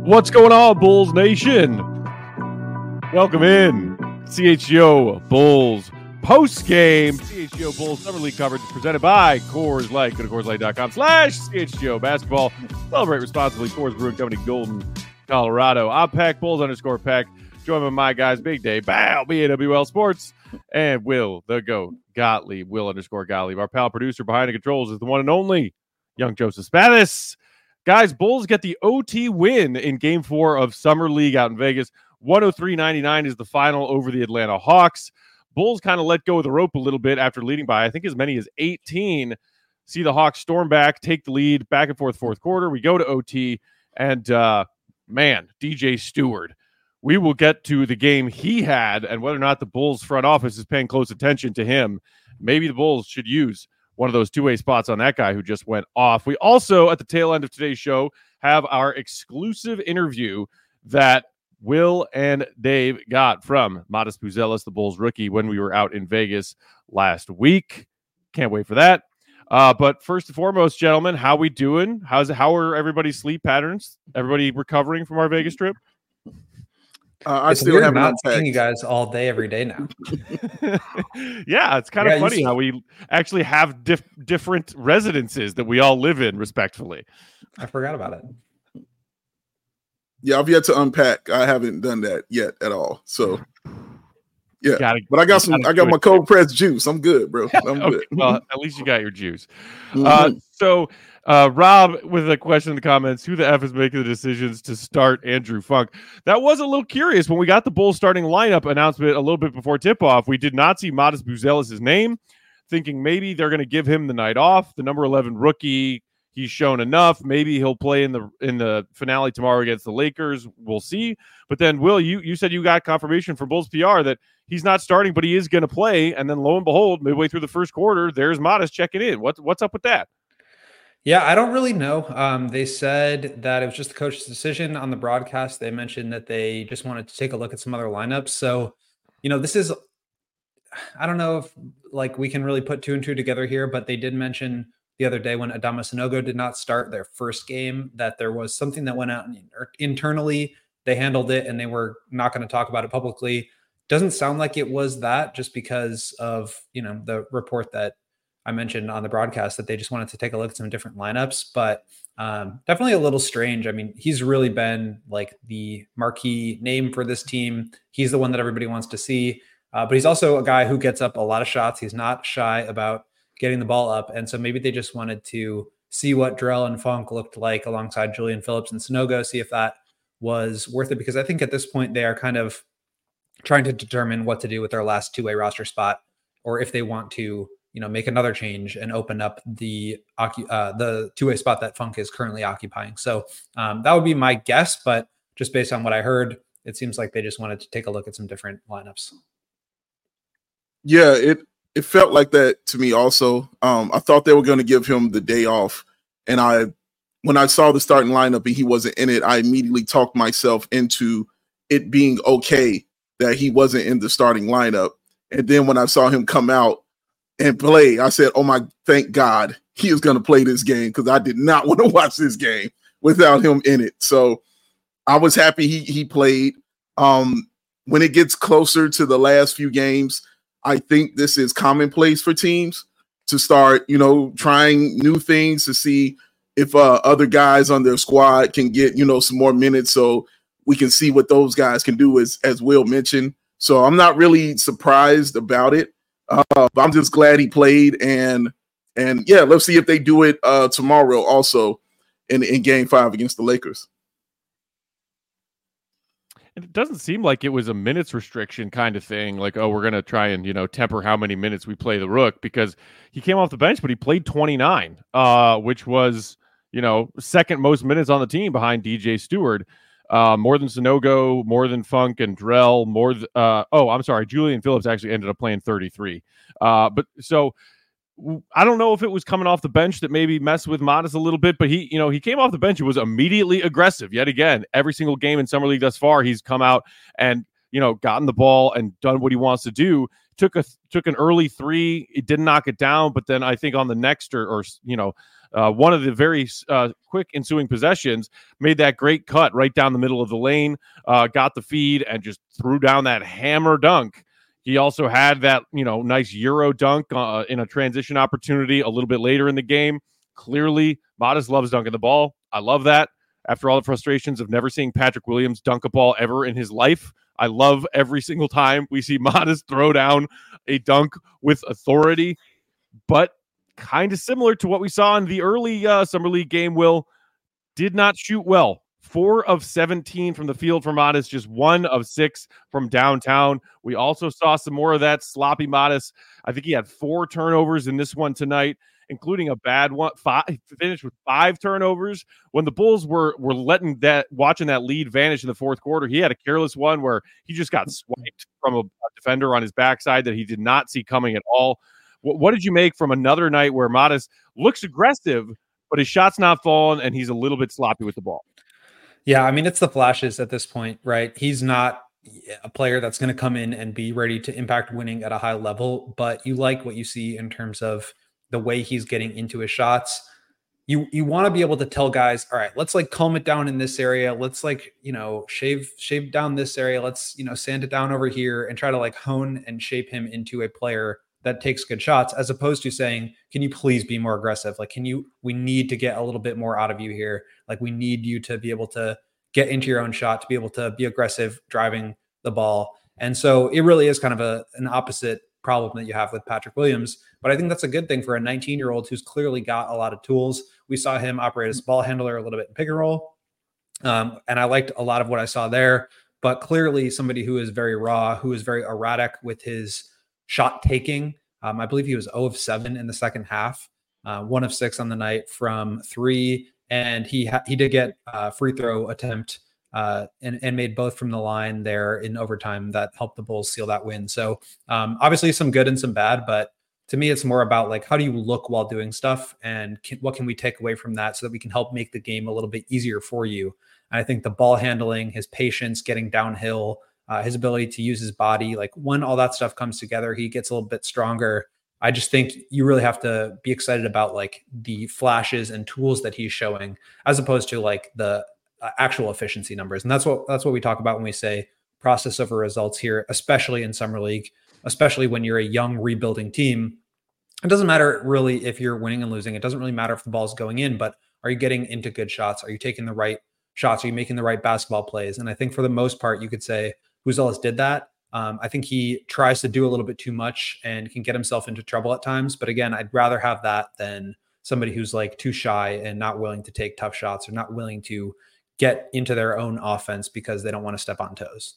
What's going on, Bulls Nation? Welcome in. CHGO Bulls post-game. CHGO Bulls Summer League coverage presented by Coors Light. Go to CoorsLight.com/CHGO basketball. Celebrate responsibly. Coors Brewing Company, Golden, Colorado. I'm Peck, Bulls_Peck. Joined by my guys, Big Day, Bow, BAWL Sports, and Will, the GOAT, Gottlieb, Will_Gottlieb. Our pal producer behind the controls is the one and only Young Joseph Spathis. Guys, Bulls get the OT win in Game 4 of Summer League out in Vegas. 103-99 is the final over the Atlanta Hawks. Bulls kind of let go of the rope a little bit after leading by, I think, as many as 18. See the Hawks storm back, take the lead, back and forth, fourth quarter. We go to OT, and, DJ Steward. We will get to the game he had and whether or not the Bulls front office is paying close attention to him. Maybe the Bulls should use one of those two-way spots on that guy who just went off. We also, at the tail end of today's show, have our exclusive interview that Will and Dave got from Matas Buzelis, the Bulls rookie, when we were out in Vegas last week. Can't wait for that. But first and foremost, gentlemen, how we doing? How are everybody's sleep patterns? Everybody recovering from our Vegas trip? I still have not seeing you guys all day, every day now. Yeah, it's kind of funny how we actually have different residences that we all live in, respectfully. I forgot about it. Yeah, I've yet to unpack. I haven't done that yet at all. So, yeah, but I got my cold pressed juice. I'm good, bro. I'm good. Well, at least you got your juice. So, Rob, with a question in the comments, who the F is making the decisions to start Andrew Funk? That was a little curious when we got the Bulls starting lineup announcement a little bit before tip-off. We did not see Matas Buzelis' name, thinking maybe they're going to give him the night off. The number 11 rookie, he's shown enough. Maybe he'll play in the finale tomorrow against the Lakers. We'll see. But then, Will, you said you got confirmation from Bulls PR that he's not starting, but he is going to play. And then, lo and behold, midway through the first quarter, there's Matas checking in. What's up with that? Yeah, I don't really know. They said that it was just the coach's decision on the broadcast. They mentioned that they just wanted to take a look at some other lineups. So, this is, I don't know if we can really put two and two together here, but they did mention the other day when Adama Sanogo did not start their first game that there was something that went out internally. They handled it and they were not going to talk about it publicly. Doesn't sound like it was that, just because of, the report that I mentioned on the broadcast that they just wanted to take a look at some different lineups, but definitely a little strange. I mean, he's really been the marquee name for this team. He's the one that everybody wants to see, but he's also a guy who gets up a lot of shots. He's not shy about getting the ball up. And so maybe they just wanted to see what Drell and Funk looked like alongside Julian Phillips and Sanogo, see if that was worth it, because I think at this point they are kind of trying to determine what to do with their last two-way roster spot, or if they want to make another change and open up the two-way spot that Funk is currently occupying. So that would be my guess, but just based on what I heard, it seems like they just wanted to take a look at some different lineups. Yeah, it felt like that to me also. I thought they were going to give him the day off, and when I saw the starting lineup and he wasn't in it, I immediately talked myself into it being okay that he wasn't in the starting lineup. And then when I saw him come out and play, I said, oh my, thank God he is going to play this game, because I did not want to watch this game without him in it. So I was happy he played. When it gets closer to the last few games, I think this is commonplace for teams to start, trying new things to see if other guys on their squad can get, some more minutes, so we can see what those guys can do, as Will mentioned. So I'm not really surprised about it. But I'm just glad he played, and yeah, let's see if they do it tomorrow also in Game 5 against the Lakers. It doesn't seem like it was a minutes restriction kind of thing, like, oh, we're going to try and, temper how many minutes we play the Rook, because he came off the bench, but he played 29, which was, second most minutes on the team behind DJ Steward. More than Sanogo, more than Funk and Drell, Julian Phillips actually ended up playing 33. But so I don't know if it was coming off the bench that maybe messed with Matas a little bit, but he came off the bench and was immediately aggressive. Yet again, every single game in Summer League thus far, he's come out and, gotten the ball and done what he wants to do. Took an early three. It didn't knock it down, but then I think on the next one of the very quick ensuing possessions, made that great cut right down the middle of the lane, got the feed, and just threw down that hammer dunk. He also had that, nice Euro dunk in a transition opportunity a little bit later in the game. Clearly, Modest loves dunking the ball. I love that. After all the frustrations of never seeing Patrick Williams dunk a ball ever in his life, I love every single time we see Modest throw down a dunk with authority. But kind of similar to what we saw in the early Summer League game, Will, did not shoot well. 4 of 17 from the field for Modest, just 1 of 6 from downtown. We also saw some more of that sloppy Modest. I think he had 4 turnovers in this one tonight, including a bad one. Finished with 5 turnovers. When the Bulls were watching that lead vanish in the fourth quarter, he had a careless one where he just got swiped from a defender on his backside that he did not see coming at all. What did you make from another night where Modest looks aggressive, but his shot's not falling and he's a little bit sloppy with the ball? Yeah, I mean, it's the flashes at this point, right? He's not a player that's going to come in and be ready to impact winning at a high level, but you like what you see in terms of the way he's getting into his shots. You want to be able to tell guys, all right, let's calm it down in this area. Let's shave down this area. Let's, sand it down over here and try to hone and shape him into a player that takes good shots, as opposed to saying, can you please be more aggressive? We need to get a little bit more out of you here. We need you to be able to get into your own shot, to be able to be aggressive driving the ball. And so it really is kind of an opposite problem that you have with Patrick Williams. But I think that's a good thing for a 19-year-old who's clearly got a lot of tools. We saw him operate as a ball handler a little bit in pick and roll. And I liked a lot of what I saw there, but clearly somebody who is very raw, who is very erratic with his shot taking. I believe he was 0 of 7 in the second half, 1 of 6 on the night from 3. And he did get a free throw attempt and made both from the line there in overtime that helped the Bulls seal that win. So obviously some good and some bad, but to me, it's more about how do you look while doing stuff and what can we take away from that so that we can help make the game a little bit easier for you. And I think the ball handling, his patience, getting downhill, his ability to use his body, when all that stuff comes together, he gets a little bit stronger. I just think you really have to be excited about the flashes and tools that he's showing, as opposed to the actual efficiency numbers. And that's what we talk about when we say process over results here, especially in Summer League, especially when you're a young rebuilding team. It doesn't matter really if you're winning and losing. It doesn't really matter if the ball's going in, but are you getting into good shots? Are you taking the right shots? Are you making the right basketball plays? And I think for the most part, you could say Buzelis did that. I think he tries to do a little bit too much and can get himself into trouble at times. But again, I'd rather have that than somebody who's too shy and not willing to take tough shots or not willing to get into their own offense because they don't want to step on toes.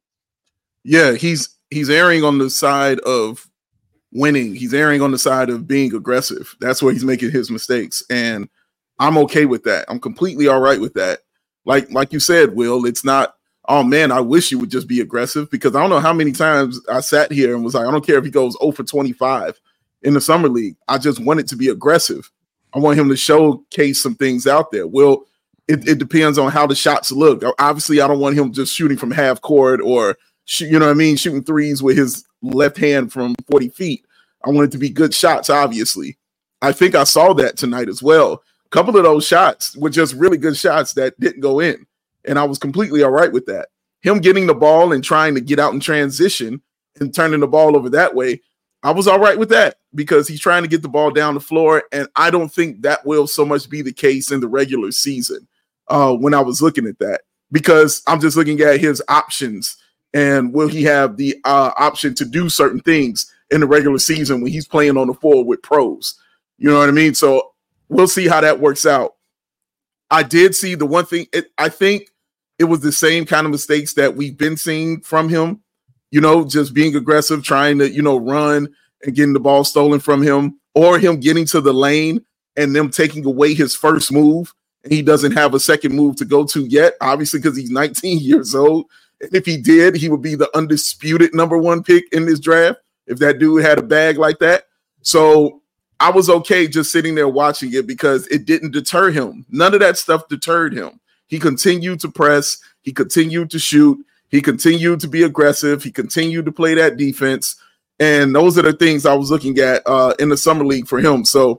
Yeah, he's erring on the side of winning. He's erring on the side of being aggressive. That's where he's making his mistakes. And I'm okay with that. I'm completely all right with that. Like you said, Will, it's not, oh man, I wish you would just be aggressive, because I don't know how many times I sat here and was like, I don't care if he goes 0 for 25 in the Summer League. I just want it to be aggressive. I want him to showcase some things out there. Well, it depends on how the shots look. Obviously, I don't want him just shooting from half court or, shooting threes with his left hand from 40 feet. I want it to be good shots, obviously. I think I saw that tonight as well. A couple of those shots were just really good shots that didn't go in. And I was completely all right with that. Him getting the ball and trying to get out in transition and turning the ball over that way, I was all right with that because he's trying to get the ball down the floor. And I don't think that will so much be the case in the regular season when I was looking at that, because I'm just looking at his options and will he have the option to do certain things in the regular season when he's playing on the floor with pros. You know what I mean? So we'll see how that works out. I did see the one thing, I think it was the same kind of mistakes that we've been seeing from him, just being aggressive, trying to, run and getting the ball stolen from him, or him getting to the lane and them taking away his first move. And he doesn't have a second move to go to yet, obviously, because he's 19 years old. And if he did, he would be the undisputed number 1 pick in this draft if that dude had a bag like that. So I was okay just sitting there watching it because it didn't deter him. None of that stuff deterred him. He continued to press. He continued to shoot. He continued to be aggressive. He continued to play that defense. And those are the things I was looking at in the Summer League for him. So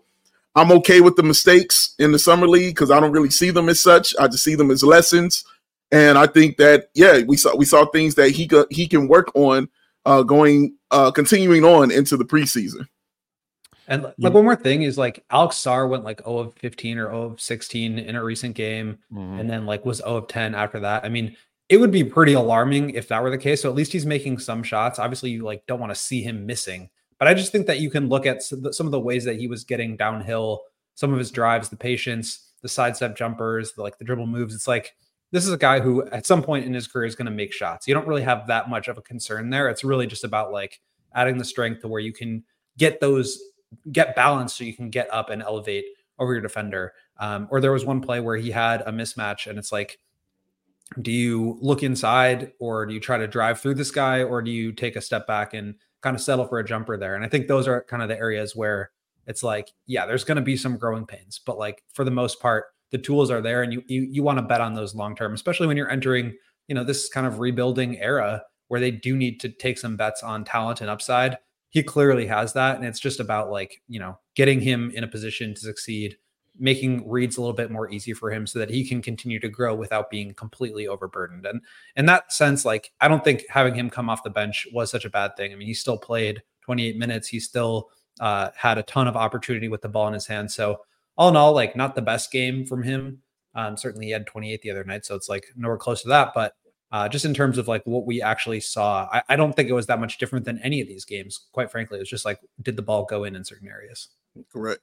I'm okay with the mistakes in the summer league because I don't really see them as such. I just see them as lessons. And I think that, we saw things that he can work on continuing on into the preseason. And like one more thing is like Alex Sarr went like 0 of 15 or 0 of 16 in a recent game, and then like was 0 of 10 after that. I mean, it would be pretty alarming if that were the case. So at least he's making some shots. Obviously, you like don't want to see him missing, but I just think that you can look at some of the ways that he was getting downhill, some of his drives, the patience, the sidestep jumpers, the dribble moves. It's like this is a guy who at some point in his career is going to make shots. You don't really have that much of a concern there. It's really just about like adding the strength to where you can get balance so you can get up and elevate over your defender. Or there was one play where he had a mismatch and it's like, do you look inside or do you try to drive through this guy or do you take a step back and kind of settle for a jumper there? And I think those are kind of the areas where it's like, yeah, there's going to be some growing pains, but like for the most part, the tools are there and you want to bet on those long-term, especially when you're entering, this kind of rebuilding era where they do need to take some bets on talent and upside. He clearly has that. And it's just about like, getting him in a position to succeed, making reads a little bit more easy for him so that he can continue to grow without being completely overburdened. And in that sense, like, I don't think having him come off the bench was such a bad thing. I mean, he still played 28 minutes. He still had a ton of opportunity with the ball in his hand. So all in all, like not the best game from him. Certainly he had 28 the other night. So it's like nowhere close to that, but just in terms of like what we actually saw, I don't think it was that much different than any of these games. Quite frankly, it was just like, did the ball go in certain areas? Correct.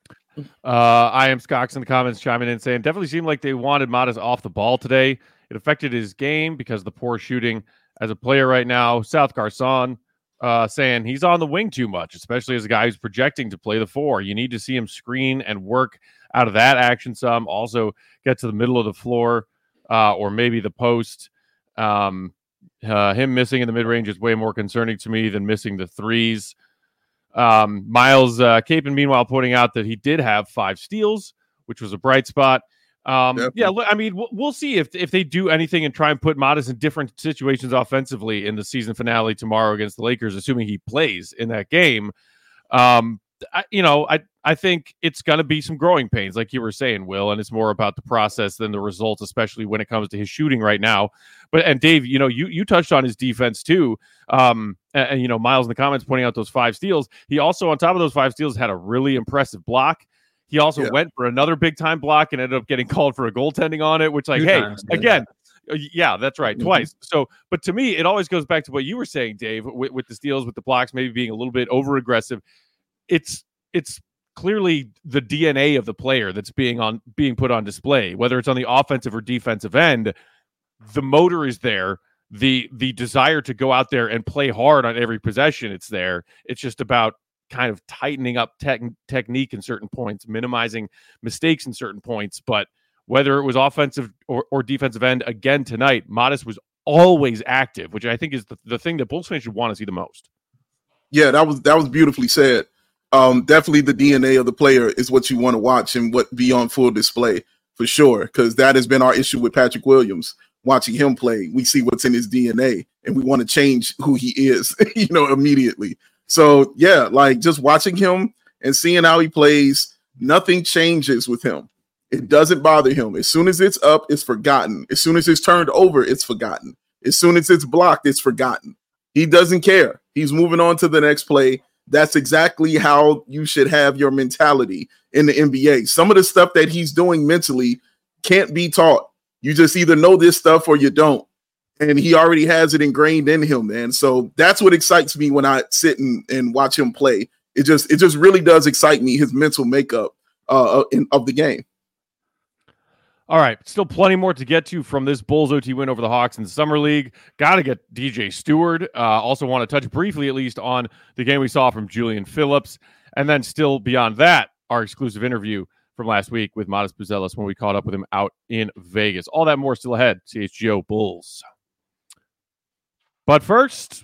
I am Scox in the comments chiming in saying definitely seemed like they wanted Modest off the ball today. It affected his game because of the poor shooting as a player right now. South Garcon saying he's on the wing too much, especially as a guy who's projecting to play the 4. You need to see him screen and work out of that action some. Also get to the middle of the floor or maybe the post. Him missing in the mid-range is way more concerning to me than missing the threes. Miles Capon, meanwhile, pointing out that he did have 5 steals, which was a bright spot. Yeah, I mean, we'll see if they do anything and try and put Modest in different situations offensively in the season finale tomorrow against the Lakers, assuming he plays in that game. I think it's going to be some growing pains, like you were saying, Will, and it's more about the process than the results, especially when it comes to his shooting right now. And Dave, you touched on his defense too. And Miles in the comments pointing out those 5 steals. He also, on top of those 5 steals, had a really impressive block. He also went for another big time block and ended up getting called for a goaltending on it, which again, yeah, that's right. Twice. So, but to me, it always goes back to what you were saying, Dave, with the steals, with the blocks, maybe being a little bit over aggressive. It's clearly the DNA of the player that's being put on display, whether it's on the offensive or defensive end. The motor is there. The desire to go out there and play hard on every possession, it's there. It's just about kind of tightening up technique in certain points, minimizing mistakes in certain points. But whether it was offensive or defensive end, again tonight, Modest was always active, which I think is the thing that Bulls fans should want to see the most. Yeah, that was beautifully said. Definitely the DNA of the player is what you want to watch and what be on full display for sure, because that has been our issue with Patrick Williams. Watching him play, we see what's in his DNA and we want to change who he is, immediately. So yeah, like just watching him and seeing how he plays, nothing changes with him. It doesn't bother him. As soon as it's up, it's forgotten. As soon as it's turned over, it's forgotten. As soon as it's blocked, it's forgotten. He doesn't care. He's moving on to the next play. That's exactly how you should have your mentality in the NBA. Some of the stuff that he's doing mentally can't be taught. You just either know this stuff or you don't. And he already has it ingrained in him, man. So that's what excites me when I sit and watch him play. It just really does excite me, his mental makeup of the game. All right, still plenty more to get to from this Bulls OT win over the Hawks in the Summer League. Got to get DJ Stewart. Also want to touch briefly, at least, on the game we saw from Julian Phillips. And then still beyond that, our exclusive interview from last week with Modest Buzelis when we caught up with him out in Vegas. All that more still ahead. CHGO Bulls. But first,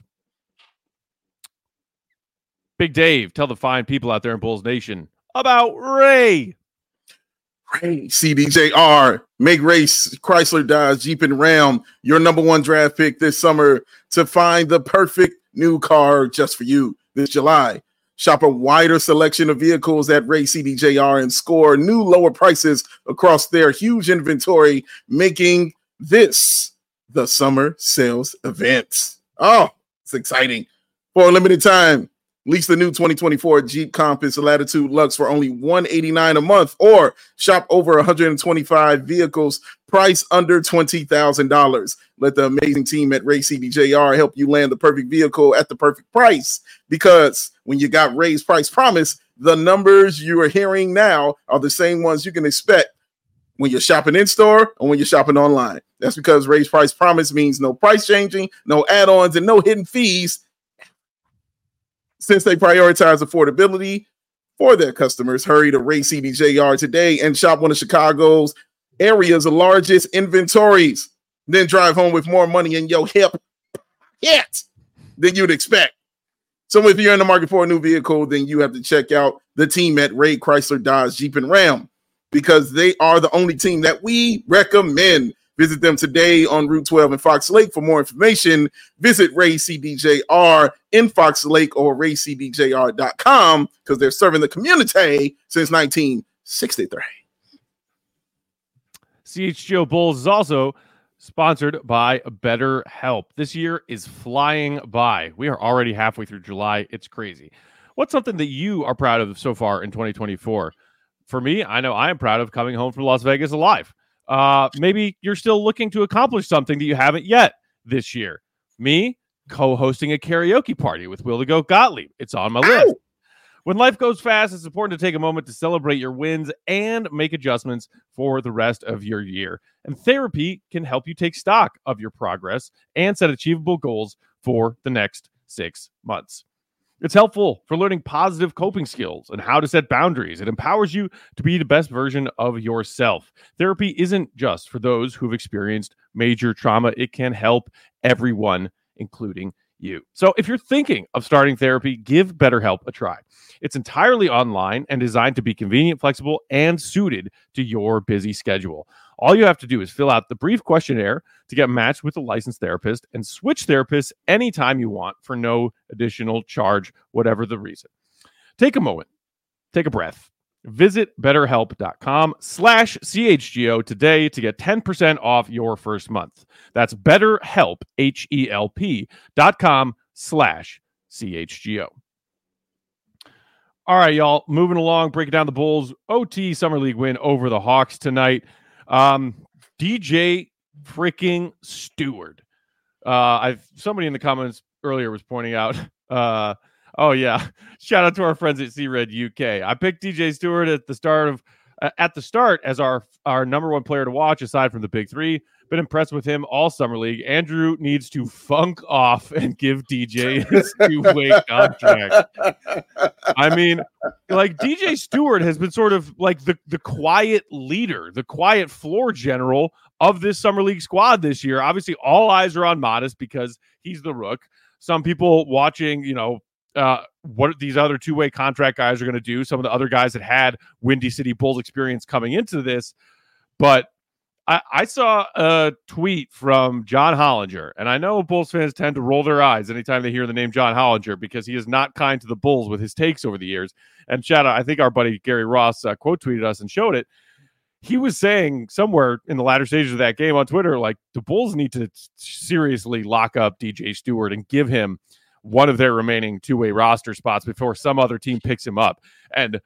Big Dave, tell the fine people out there in Bulls Nation about Ray. Ray, CDJR, make race, Chrysler, Dodge, Jeep, and Ram your number 1 draft pick this summer to find the perfect new car just for you this July. Shop a wider selection of vehicles at Ray CDJR and score new lower prices across their huge inventory, making this the summer sales event. Oh, it's exciting. For a limited time, lease the new 2024 Jeep Compass Latitude Luxe for only $189 a month, or shop over 125 vehicles, price under $20,000. Let the amazing team at Ray CDJR help you land the perfect vehicle at the perfect price. Because when you got Ray's price promise, the numbers you are hearing now are the same ones you can expect when you're shopping in store or when you're shopping online. That's because Ray's price promise means no price changing, no add-ons, and no hidden fees. Since they prioritize affordability for their customers, hurry to Ray CDJR today and shop one of Chicago's area's largest inventories. Then drive home with more money in your hip than you'd expect. So if you're in the market for a new vehicle, then you have to check out the team at Ray Chrysler Dodge Jeep and Ram, because they are the only team that we recommend. Visit them today on Route 12 in Fox Lake. For more information, visit Ray CDJR in Fox Lake or raycdjr.com, because they're serving the community since 1963. CHGO Bulls is also sponsored by BetterHelp. This year is flying by. We are already halfway through July. It's crazy. What's something that you are proud of so far in 2024? For me, I know I am proud of coming home from Las Vegas alive. Maybe you're still looking to accomplish something that you haven't yet this year. Me, co-hosting a karaoke party with Will the Goat Gottlieb. It's on my list. When life goes fast, it's important to take a moment to celebrate your wins and make adjustments for the rest of your year. And therapy can help you take stock of your progress and set achievable goals for the next 6 months. It's helpful for learning positive coping skills and how to set boundaries. It empowers you to be the best version of yourself. Therapy isn't just for those who've experienced major trauma. It can help everyone, including you. So if you're thinking of starting therapy, give BetterHelp a try. It's entirely online and designed to be convenient, flexible, and suited to your busy schedule. All you have to do is fill out the brief questionnaire to get matched with a licensed therapist and switch therapists anytime you want for no additional charge, whatever the reason. Take a moment, take a breath. Visit BetterHelp.com/CHGO today to get 10% off your first month. That's BetterHelp, HELP.com/CHGO. All right, y'all, moving along, breaking down the Bulls OT Summer League win over the Hawks tonight. DJ freaking Steward. Somebody in the comments earlier was pointing out, oh yeah, shout out to our friends at C-Red UK. I picked DJ Steward at the start as our number one player to watch, aside from the big three. Been impressed with him all summer league. Andrew needs to funk off and give DJ his two-way contract. I mean, like, DJ Steward has been sort of like the quiet leader, the quiet floor general of this summer league squad this year. Obviously, all eyes are on Modest because he's the rook. Some people watching, what these other two-way contract guys are going to do. Some of the other guys that had Windy City Bulls experience coming into this. But I saw a tweet from John Hollinger, and I know Bulls fans tend to roll their eyes anytime they hear the name John Hollinger because he is not kind to the Bulls with his takes over the years. And shout out, I think our buddy Gary Ross quote tweeted us and showed it. He was saying somewhere in the latter stages of that game on Twitter, like, the Bulls need to seriously lock up DJ Steward and give him one of their remaining two-way roster spots before some other team picks him up. And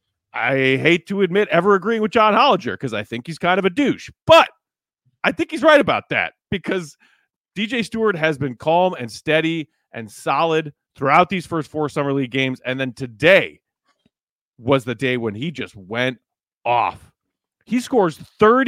I hate to admit ever agreeing with John Hollinger because I think he's kind of a douche, but I think he's right about that because DJ Steward has been calm and steady and solid throughout these first 4 summer league games. And then today was the day when he just went off. He scores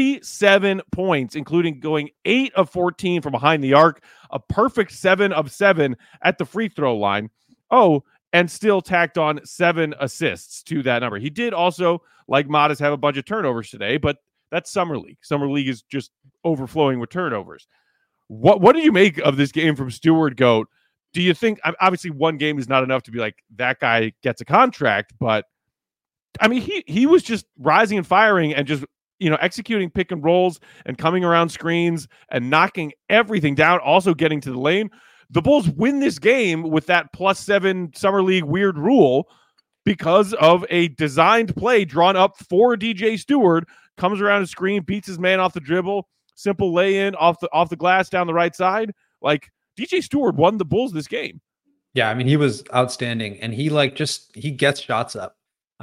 37 points, including going 8 of 14 from behind the arc, a perfect 7 of 7 at the free throw line. Oh, and still tacked on 7 assists to that number. He did also, like Modest, have a bunch of turnovers today, but that's Summer League. Summer League is just overflowing with turnovers. What do you make of this game from Steward, Goat? Do you think, obviously one game is not enough to be like, that guy gets a contract, but I mean, he was just rising and firing and just, executing pick and rolls and coming around screens and knocking everything down, also getting to the lane. The Bulls win this game with that +7 Summer League weird rule because of a designed play drawn up for DJ Stewart, comes around the screen, beats his man off the dribble, simple lay-in off the glass down the right side. Like, DJ Stewart won the Bulls this game. Yeah, I mean, he was outstanding, and he gets shots up.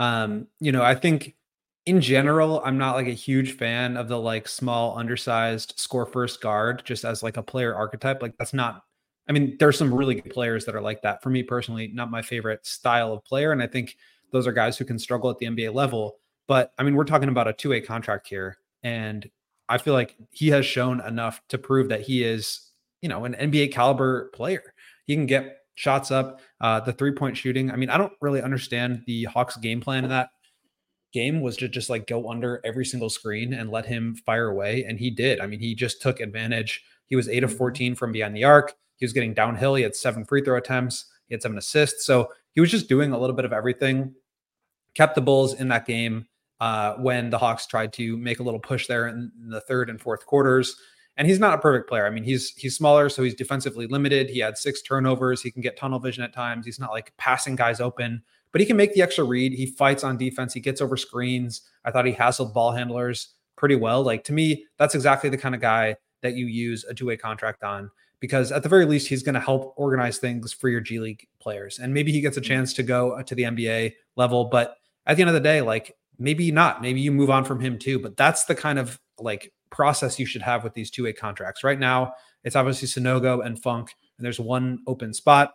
I think in general, I'm not like a huge fan of the like small, undersized score first guard just as like a player archetype. Like that's not, I mean, there's some really good players that are like that. For me personally, not my favorite style of player. And I think those are guys who can struggle at the NBA level. But I mean, we're talking about a 2-way contract here. And I feel like he has shown enough to prove that he is, an NBA caliber player. He can get shots up, the 3-point shooting. I mean, I don't really understand the Hawks game plan in that game was to just like go under every single screen and let him fire away. And he did. I mean, he just took advantage. He was 8 of 14 from behind the arc. He was getting downhill. He had 7 free throw attempts. He had 7 assists. So he was just doing a little bit of everything. Kept the Bulls in that game when the Hawks tried to make a little push there in the third and fourth quarters. And he's not a perfect player. I mean, he's smaller, so he's defensively limited. He had 6 turnovers. He can get tunnel vision at times. He's not like passing guys open, but he can make the extra read. He fights on defense. He gets over screens. I thought he hassled ball handlers pretty well. Like, to me, that's exactly the kind of guy that you use a 2-way contract on, because at the very least, he's going to help organize things for your G League players. And maybe he gets a chance to go to the NBA level, but at the end of the day, like, maybe not. Maybe you move on from him too. But that's the kind of like process you should have with these 2-way contracts. Right now, it's obviously Sanogo and Funk, and there's one open spot.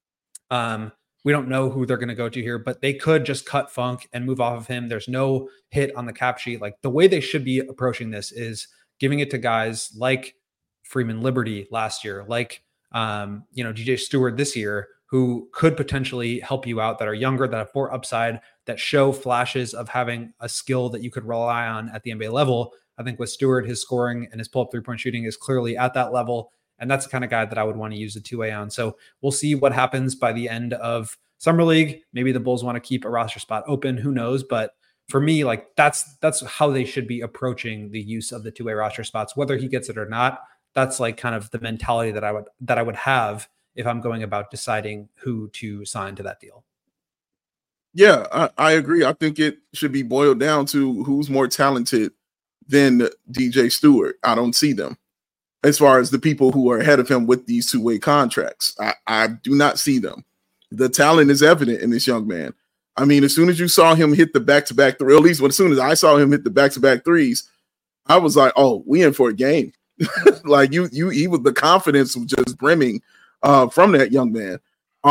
We don't know who they're going to go to here, but they could just cut Funk and move off of him. There's no hit on the cap sheet. Like, the way they should be approaching this is giving it to guys like Freeman Liberty last year, like, DJ Stewart this year, who could potentially help you out, that are younger, that have more upside, that show flashes of having a skill that you could rely on at the NBA level. I think with Stewart, his scoring and his pull-up 3-point shooting is clearly at that level. And that's the kind of guy that I would want to use a 2-way on. So we'll see what happens by the end of Summer League. Maybe the Bulls want to keep a roster spot open. Who knows? But for me, like, that's how they should be approaching the use of the 2-way roster spots, whether he gets it or not. That's like kind of the mentality that I would have if I'm going about deciding who to sign to that deal. Yeah, I agree. I think it should be boiled down to who's more talented than DJ Stewart. I don't see them as far as the people who are ahead of him with these 2-way contracts. I do not see them. The talent is evident in this young man. I mean, as soon as you saw him hit the back-to-back three, or at least as soon as I saw him hit the back-to-back threes, I was like, oh, we in for a game. Like, he was, the confidence was just brimming from that young man.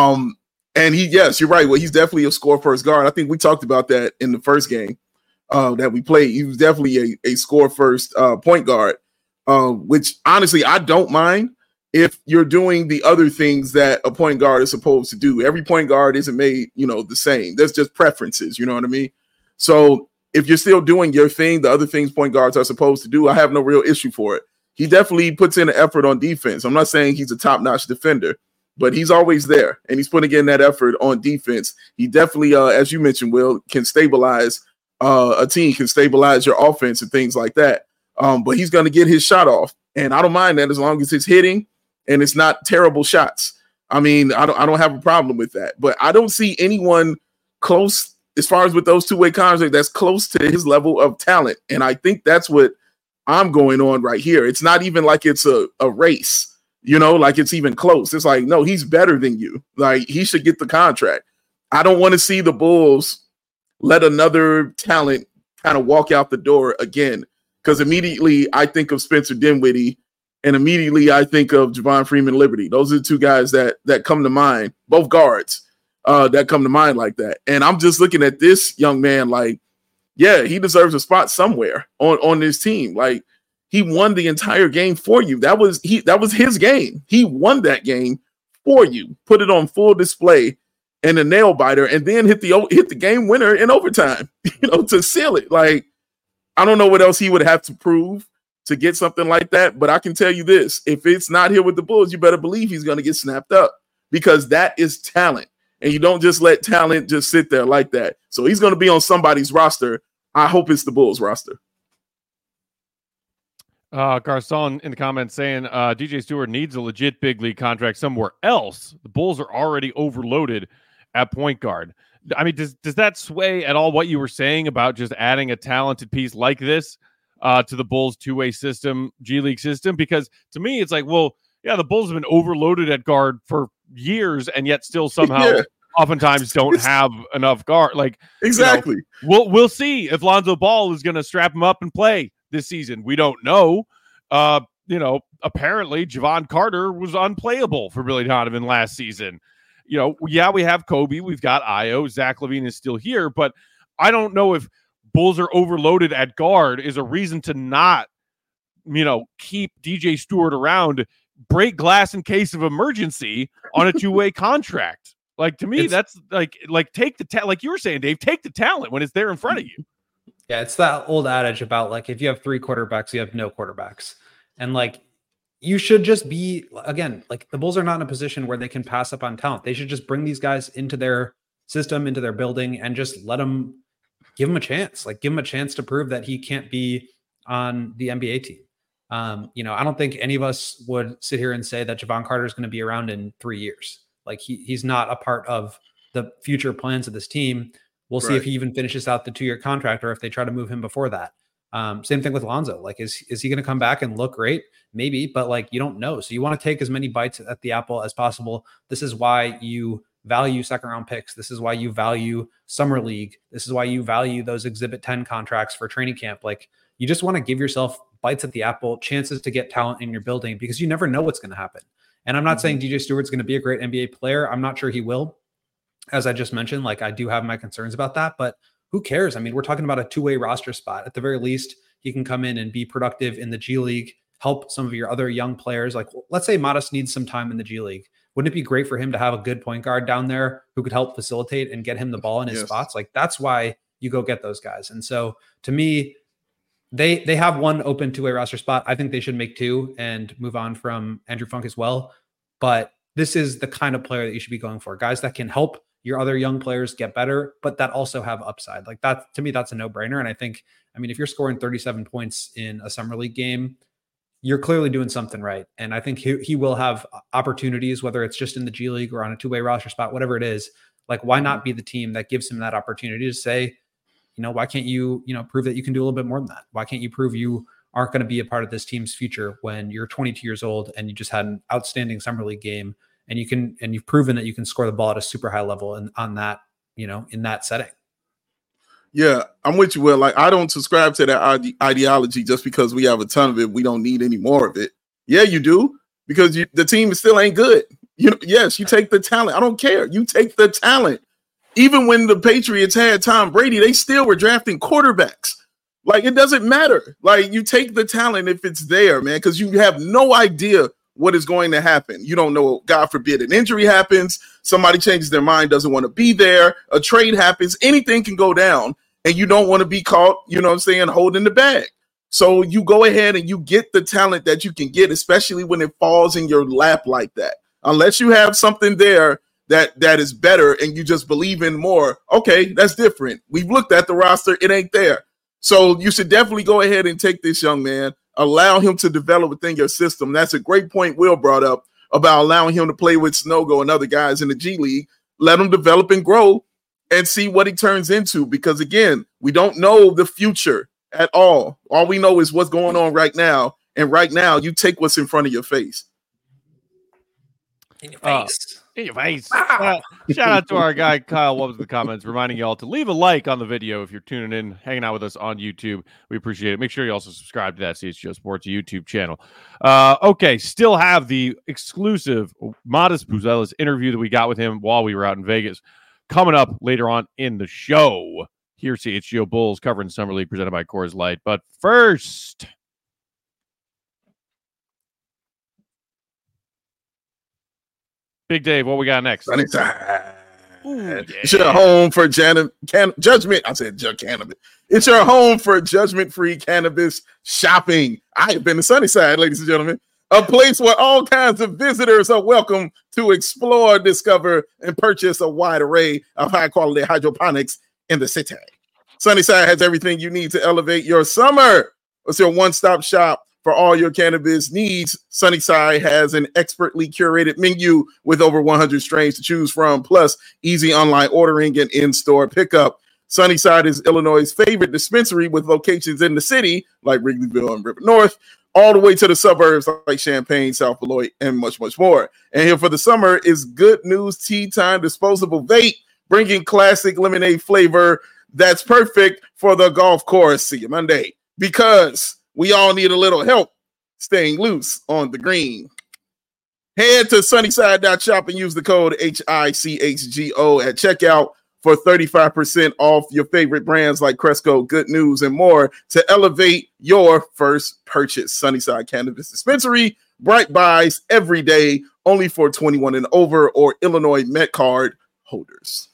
And yes, you're right. Well, he's definitely a score first guard. I think we talked about that in the first game that we played. He was definitely a score first point guard, which honestly, I don't mind if you're doing the other things that a point guard is supposed to do. Every point guard isn't made, the same. There's just preferences, you know what I mean? So if you're still doing your thing, the other things point guards are supposed to do, I have no real issue for it. He definitely puts in an effort on defense. I'm not saying he's a top-notch defender, but he's always there, and he's putting in that effort on defense. He definitely, as you mentioned, Will, can stabilize a team, can stabilize your offense and things like that. But he's going to get his shot off, and I don't mind that as long as it's hitting and it's not terrible shots. I mean, I don't have a problem with that. But I don't see anyone close, as far as with those 2-way contracts, that's close to his level of talent, and I think that's what I'm going on right here. It's not even like it's a race. Like it's even close. It's like, no, he's better than you. Like, he should get the contract. I don't want to see the Bulls let another talent kind of walk out the door again, because immediately I think of Spencer Dinwiddie and immediately I think of Javon Freeman Liberty. Those are the two guys that come to mind, both guards that come to mind like that. And I'm just looking at this young man like, yeah, he deserves a spot somewhere on this team. Like, he won the entire game for you. That was his game. He won that game for you, put it on full display and a nail biter, and then hit the game winner in overtime, to seal it. Like, I don't know what else he would have to prove to get something like that, but I can tell you this: if it's not here with the Bulls, you better believe he's going to get snapped up, because that is talent, and you don't just let talent just sit there like that. So he's going to be on somebody's roster. I hope it's the Bulls roster. Garcon in the comments saying DJ Stewart needs a legit big league contract somewhere else. The Bulls are already overloaded at point guard. I mean, does that sway at all what you were saying about just adding a talented piece like this to the Bulls two-way system, G League system? Because to me, it's like, well, yeah, the Bulls have been overloaded at guard for years, and yet still somehow oftentimes don't have enough guard. Like, exactly. We'll see if Lonzo Ball is going to strap him up and play this season. We don't know. Apparently Javon Carter was unplayable for Billy Donovan last season. We have Kobe, we've got Io, Zach LaVine is still here, but I don't know if Bulls are overloaded at guard is a reason to not, keep DJ Stewart around, break glass in case of emergency on a two-way contract. Like, to me, that's like take the like you were saying, Dave, take the talent when it's there in front of you. Yeah, it's that old adage about like if you have 3 quarterbacks, you have no quarterbacks. And like you should just be, again, like the Bulls are not in a position where they can pass up on talent. They should just bring these guys into their system, into their building, and just give them a chance. Like give him a chance to prove that he can't be on the NBA team. I don't think any of us would sit here and say that Javon Carter is going to be around in 3 years. Like he's not a part of the future plans of this team. We'll see if he even finishes out the 2-year contract or if they try to move him before that. Same thing with Lonzo. Like, is he going to come back and look great? Maybe, but like, you don't know. So you want to take as many bites at the apple as possible. This is why you value second round picks. This is why you value summer league. This is why you value those exhibit 10 contracts for training camp. Like you just want to give yourself bites at the apple, chances to get talent in your building because you never know what's going to happen. And I'm not saying DJ Stewart's going to be a great NBA player. I'm not sure he will. As I just mentioned, like I do have my concerns about that, but who cares? I mean, we're talking about a 2-way roster spot. At the very least, he can come in and be productive in the G League, help some of your other young players. Like let's say Modest needs some time in the G League. Wouldn't it be great for him to have a good point guard down there who could help facilitate and get him the ball in his spots? Like that's why you go get those guys. And so to me, they have one open 2-way roster spot. I think they should make 2 and move on from Andrew Funk as well. But this is the kind of player that you should be going for. Guys that can help your other young players get better, but that also have upside. Like that, to me, that's a no-brainer. And I think, if you're scoring 37 points in a summer league game, you're clearly doing something right. And I think he will have opportunities, whether it's just in the G League or on a 2-way roster spot, whatever it is. Like, why not be the team that gives him that opportunity to say, why can't you, prove that you can do a little bit more than that? Why can't you prove you aren't going to be a part of this team's future when you're 22 years old and you just had an outstanding summer league game and you've proven that you can score the ball at a super high level and on that, in that setting. Yeah, I'm with you, Will. Like, I don't subscribe to that ideology just because we have a ton of it. We don't need any more of it. Yeah, you do, because the team still ain't good. Yes, you take the talent. I don't care. You take the talent. Even when the Patriots had Tom Brady, they still were drafting quarterbacks. Like, it doesn't matter. Like, you take the talent if it's there, man, because you have no idea what is going to happen. You don't know, God forbid, an injury happens, somebody changes their mind, doesn't want to be there, a trade happens, anything can go down, and you don't want to be caught, holding the bag. So you go ahead and you get the talent that you can get, especially when it falls in your lap like that. Unless you have something there that is better and you just believe in more, okay, that's different. We've looked at the roster, it ain't there. So you should definitely go ahead and take this young man, allow him to develop within your system. That's a great point Will brought up about allowing him to play with Snogo and other guys in the G League. Let him develop and grow and see what he turns into. Because, again, we don't know the future at all. All we know is what's going on right now. And right now, you take what's in front of your face. In your face. In your face. Shout out to our guy, Kyle Wubbs, in the comments, reminding y'all to leave a like on the video if you're tuning in, hanging out with us on YouTube. We appreciate it. Make sure you also subscribe to that CHGO Sports YouTube channel. Okay, still have the exclusive Modest Buzelis interview that we got with him while we were out in Vegas coming up later on in the show. Here, CHGO Bulls covering Summer League presented by Coors Light. But first, Big Dave, what we got next? Ooh, yeah. It's your home for judgment. I said cannabis. It's your home for judgment-free cannabis shopping. I have been to Sunnyside, ladies and gentlemen, a place where all kinds of visitors are welcome to explore, discover, and purchase a wide array of high-quality hydroponics in the city. Sunnyside has everything you need to elevate your summer. It's your one-stop shop For all your cannabis needs, Sunnyside has an expertly curated menu with over 100 strains to choose from, plus easy online ordering and in-store pickup. Sunnyside is Illinois' favorite dispensary with locations in the city, like Wrigleyville and River North, all the way to the suburbs like Champaign, South Beloit, and much, much more. And here for the summer is Good News Tea Time Disposable Vape, bringing classic lemonade flavor that's perfect for the golf course. See you Monday. Because we all need a little help staying loose on the green. Head to sunnyside.shop and use the code HICHGO at checkout for 35% off your favorite brands like Cresco, Good News, and more to elevate your first purchase. Sunnyside Cannabis Dispensary, bright buys every day, only for 21 and over or Illinois Met Card holders.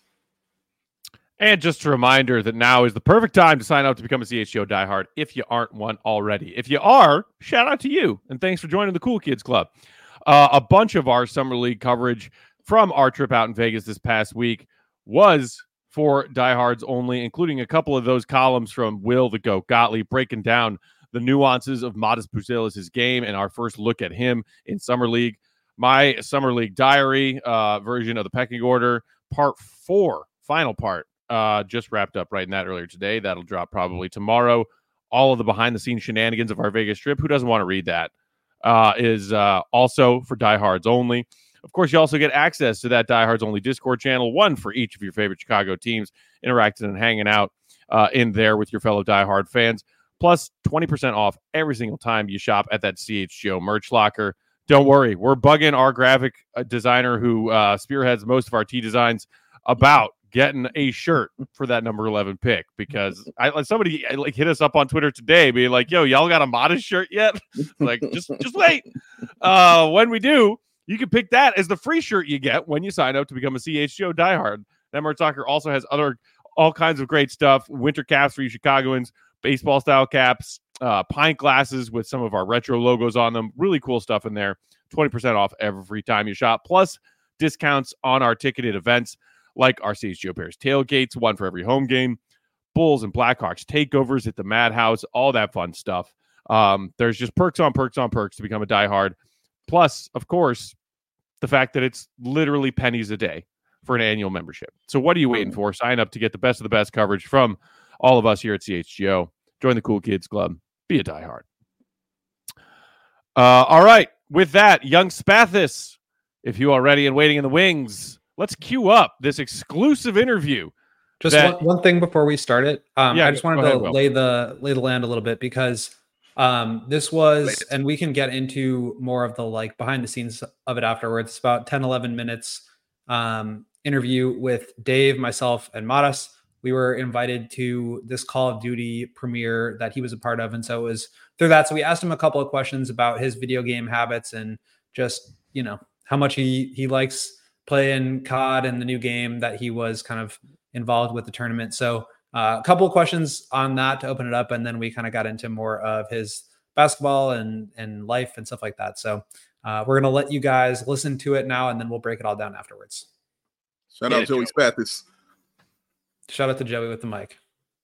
And just a reminder that now is the perfect time to sign up to become a CHGO diehard if you aren't one already. If you are, shout out to you, and thanks for joining the Cool Kids Club. A bunch of our Summer League coverage from our trip out in Vegas this past week was for diehards only, including a couple of those columns from Will the Goat Gottlieb breaking down the nuances of Modest Buzelis' game and our first look at him in Summer League. My Summer League diary version of the pecking order, part 4, final part, just wrapped up right in that earlier today. That'll drop probably tomorrow. All of the behind-the-scenes shenanigans of our Vegas trip. Who doesn't want to read that? Is also for diehards only. Of course, you also get access to that diehards only Discord channel, one for each of your favorite Chicago teams, interacting and hanging out in there with your fellow diehard fans. Plus 20% off every single time you shop at that CHGO merch locker. Don't worry, we're bugging our graphic designer who spearheads most of our tee designs about getting a shirt for that number 11 pick, because somebody hit us up on Twitter today being like, yo, y'all got a Modest shirt yet? Like, just wait. When we do, you can pick that as the free shirt you get when you sign up to become a CHGO diehard. That merch locker also has all kinds of great stuff. Winter caps for you Chicagoans, baseball style caps, pint glasses with some of our retro logos on them. Really cool stuff in there. 20% off every time you shop. Plus discounts on our ticketed events, like our CHGO Bears tailgates, one for every home game, Bulls and Blackhawks takeovers at the Madhouse, all that fun stuff. There's just perks on perks on perks to become a diehard. Plus, of course, the fact that it's literally pennies a day for an annual membership. So what are you waiting for? Sign up to get the best of the best coverage from all of us here at CHGO. Join the Cool Kids Club. Be a diehard. All right. With that, young Spathis, if you are ready and waiting in the wings, let's queue up this exclusive interview. Just one thing before we start it. I just wanted to lay the land a little bit, because this was, and we can get into more of the behind the scenes of it afterwards. It's about 10, 11 minutes interview with Dave, myself, and Modest. We were invited to this Call of Duty premiere that he was a part of. And so it was through that. So we asked him a couple of questions about his video game habits and just, how much he likes playing COD and the new game that he was kind of involved with the tournament. So a couple of questions on that to open it up. And then we kind of got into more of his basketball and life and stuff like that. So we're going to let you guys listen to it now, and then we'll break it all down afterwards. Shout out Joey Spathis. Shout out to Joey with the mic.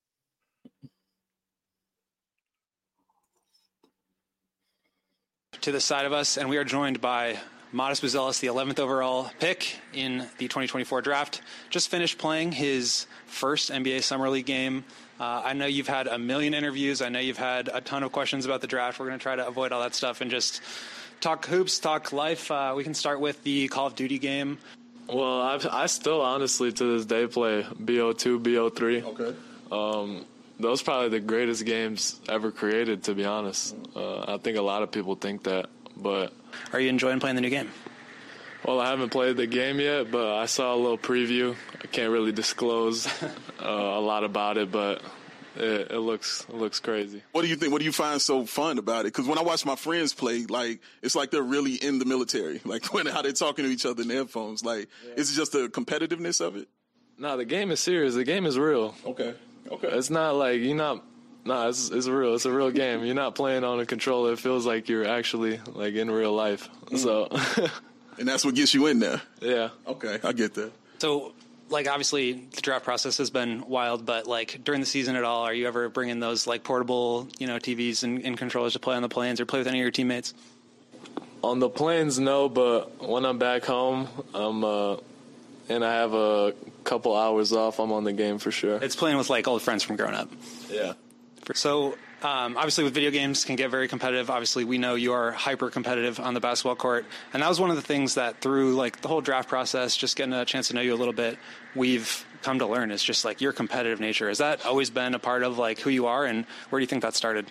To the side of us, and we are joined by Modest Buzelis, the 11th overall pick in the 2024 draft. Just finished playing his first NBA Summer League game. I know you've had a million interviews. I know you've had a ton of questions about the draft. We're going to try to avoid all that stuff and just talk hoops, talk life. We can start with the Call of Duty game. Well, I still honestly to this day play BO2, BO3. Okay. Those are probably the greatest games ever created, to be honest. I think a lot of people think that, but... Are you enjoying playing the new game? Well, I haven't played the game yet, but I saw a little preview. I can't really disclose a lot about it, but it looks crazy. What do you think? What do you find so fun about it? Because when I watch my friends play, it's like they're really in the military. How they're talking to each other in their headphones. Is it just the competitiveness of it? No, the game is serious. The game is real. Okay. It's not like you're not. No, it's real. It's a real game. You're not playing on a controller. It feels like you're actually in real life. So, and that's what gets you in there. Yeah. Okay, I get that. So, like obviously the draft process has been wild, but like during the season at all, are you ever bringing those like portable, TVs and controllers to play on the planes or play with any of your teammates? On the planes, no, but when I'm back home, and I have a couple hours off, I'm on the game for sure. It's playing with like old friends from growing up. Yeah. So obviously with video games can get very competitive. Obviously we know you are hyper competitive on the basketball court. And that was one of the things that through like the whole draft process, just getting a chance to know you a little bit, we've come to learn is just like your competitive nature. Has that always been a part of like who you are, and where do you think that started?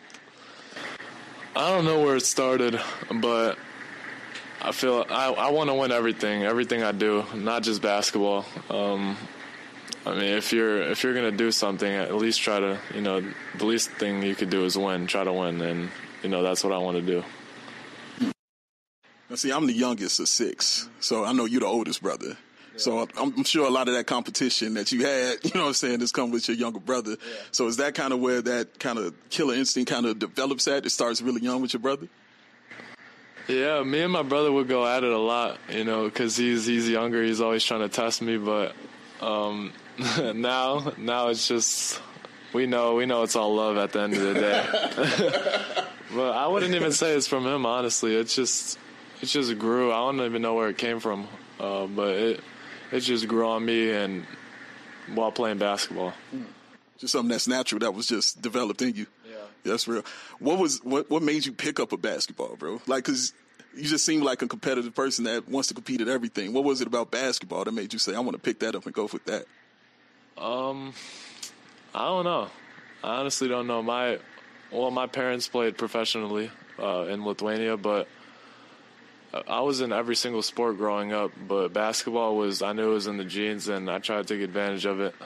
I don't know where it started, but I feel I want to win everything I do, not just basketball. I mean, if you're gonna do something, at least try to, the least thing you could do is win. Try to win, and that's what I want to do. Now, see, I'm the youngest of 6, so I know you're the oldest brother. Yeah. So I'm sure a lot of that competition that you had, has come with your younger brother. Yeah. So is that kind of where that kind of killer instinct kind of develops at? It starts really young with your brother? Yeah, me and my brother would go at it a lot, because he's younger. He's always trying to test me, but now it's just we know it's all love at the end of the day. But I wouldn't even say it's from him, honestly. It just grew. I don't even know where it came from, but it just grew on me and while playing basketball. Just something that's natural that was just developed in you. Yeah, that's real. What made you pick up a basketball, bro? Like, cause you just seem like a competitive person that wants to compete at everything. What was it about basketball that made you say, I want to pick that up and go with that? I don't know. I honestly don't know. My parents played professionally in Lithuania, but I was in every single sport growing up. But basketball I knew it was in the genes, and I tried to take advantage of it.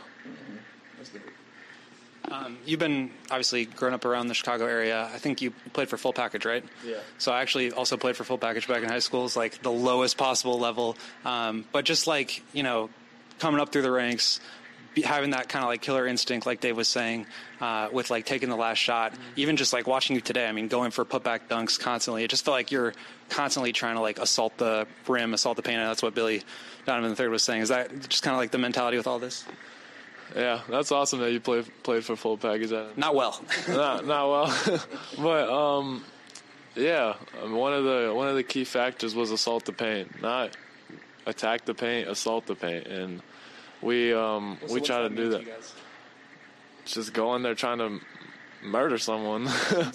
You've been obviously growing up around the Chicago area. I think you played for Full Package, right? Yeah. So I actually also played for Full Package back in high school. It's like the lowest possible level. But just like, coming up through the ranks, having that kind of like killer instinct, like Dave was saying, with like taking the last shot, even just like watching you today, I mean, going for putback dunks constantly, it just felt like you're constantly trying to like assault the rim, assault the paint. And that's what Billy Donovan III was saying. Is that just kind of like the mentality with all this? Yeah, that's awesome that you played for Full Package. Not well. not well. But yeah, one of the key factors was assault the paint, not attack the paint, assault the paint, and we try to do that. Just go in there trying to murder someone.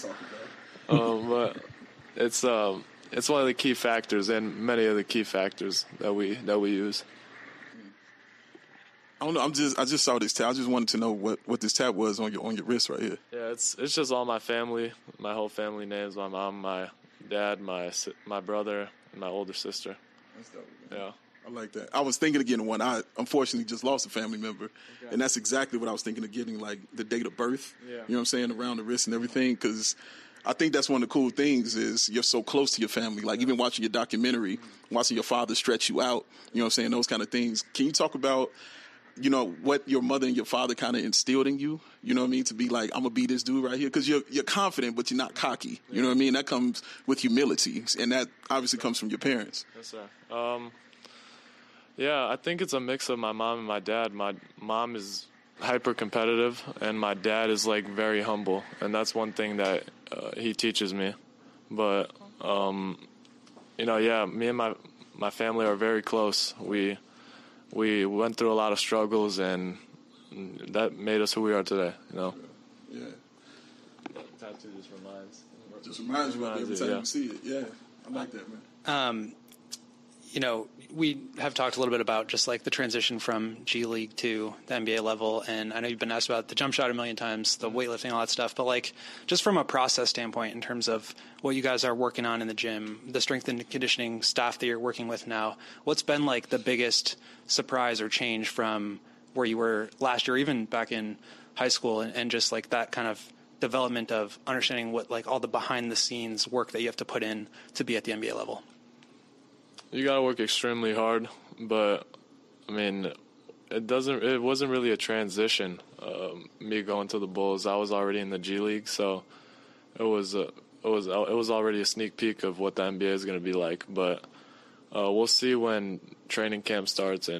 But it's one of the key factors, and many of the key factors that we use. I don't know. I just saw this tab. I just wanted to know what this tab was on your wrist right here. Yeah, it's just all my family, my whole family names. My mom, my dad, my brother, and my older sister. That's dope. Yeah, I like that. I was thinking of getting one. I unfortunately just lost a family member, and that's exactly what I was thinking of getting, like the date of birth. Yeah. You know what I'm saying, around the wrist and everything, because I think that's one of the cool things is you're so close to your family. Like even watching your documentary, watching your father stretch you out. You know what I'm saying, those kind of things. Can you talk about what your mother and your father kind of instilled in you, you know what I mean, to be like, I'm going to be this dude right here? Because you're confident, but you're not cocky. You know what I mean? That comes with humility, and that obviously comes from your parents. Yes, sir. Yeah, I think it's a mix of my mom and my dad. My mom is hyper competitive, and my dad is, like, very humble, and that's one thing that he teaches me. But, yeah, me and my family are very close. We went through a lot of struggles, and that made us who we are today, Yeah. Tattoo just reminds you every time you see it. Yeah, I like that, man. We have talked a little bit about just like the transition from G League to the NBA level, and I know you've been asked about the jump shot a million times, the weightlifting, all that stuff, but like just from a process standpoint in terms of what you guys are working on in the gym, the strength and conditioning staff that you're working with now, what's been like the biggest surprise or change from where you were last year, even back in high school, and just like that kind of development of understanding what like all the behind the scenes work that you have to put in to be at the NBA level? You got to work extremely hard, but I mean, it wasn't really a transition. Me going to the Bulls, I was already in the G League, so it was already a sneak peek of what the NBA is going to be like. But we'll see when training camp starts and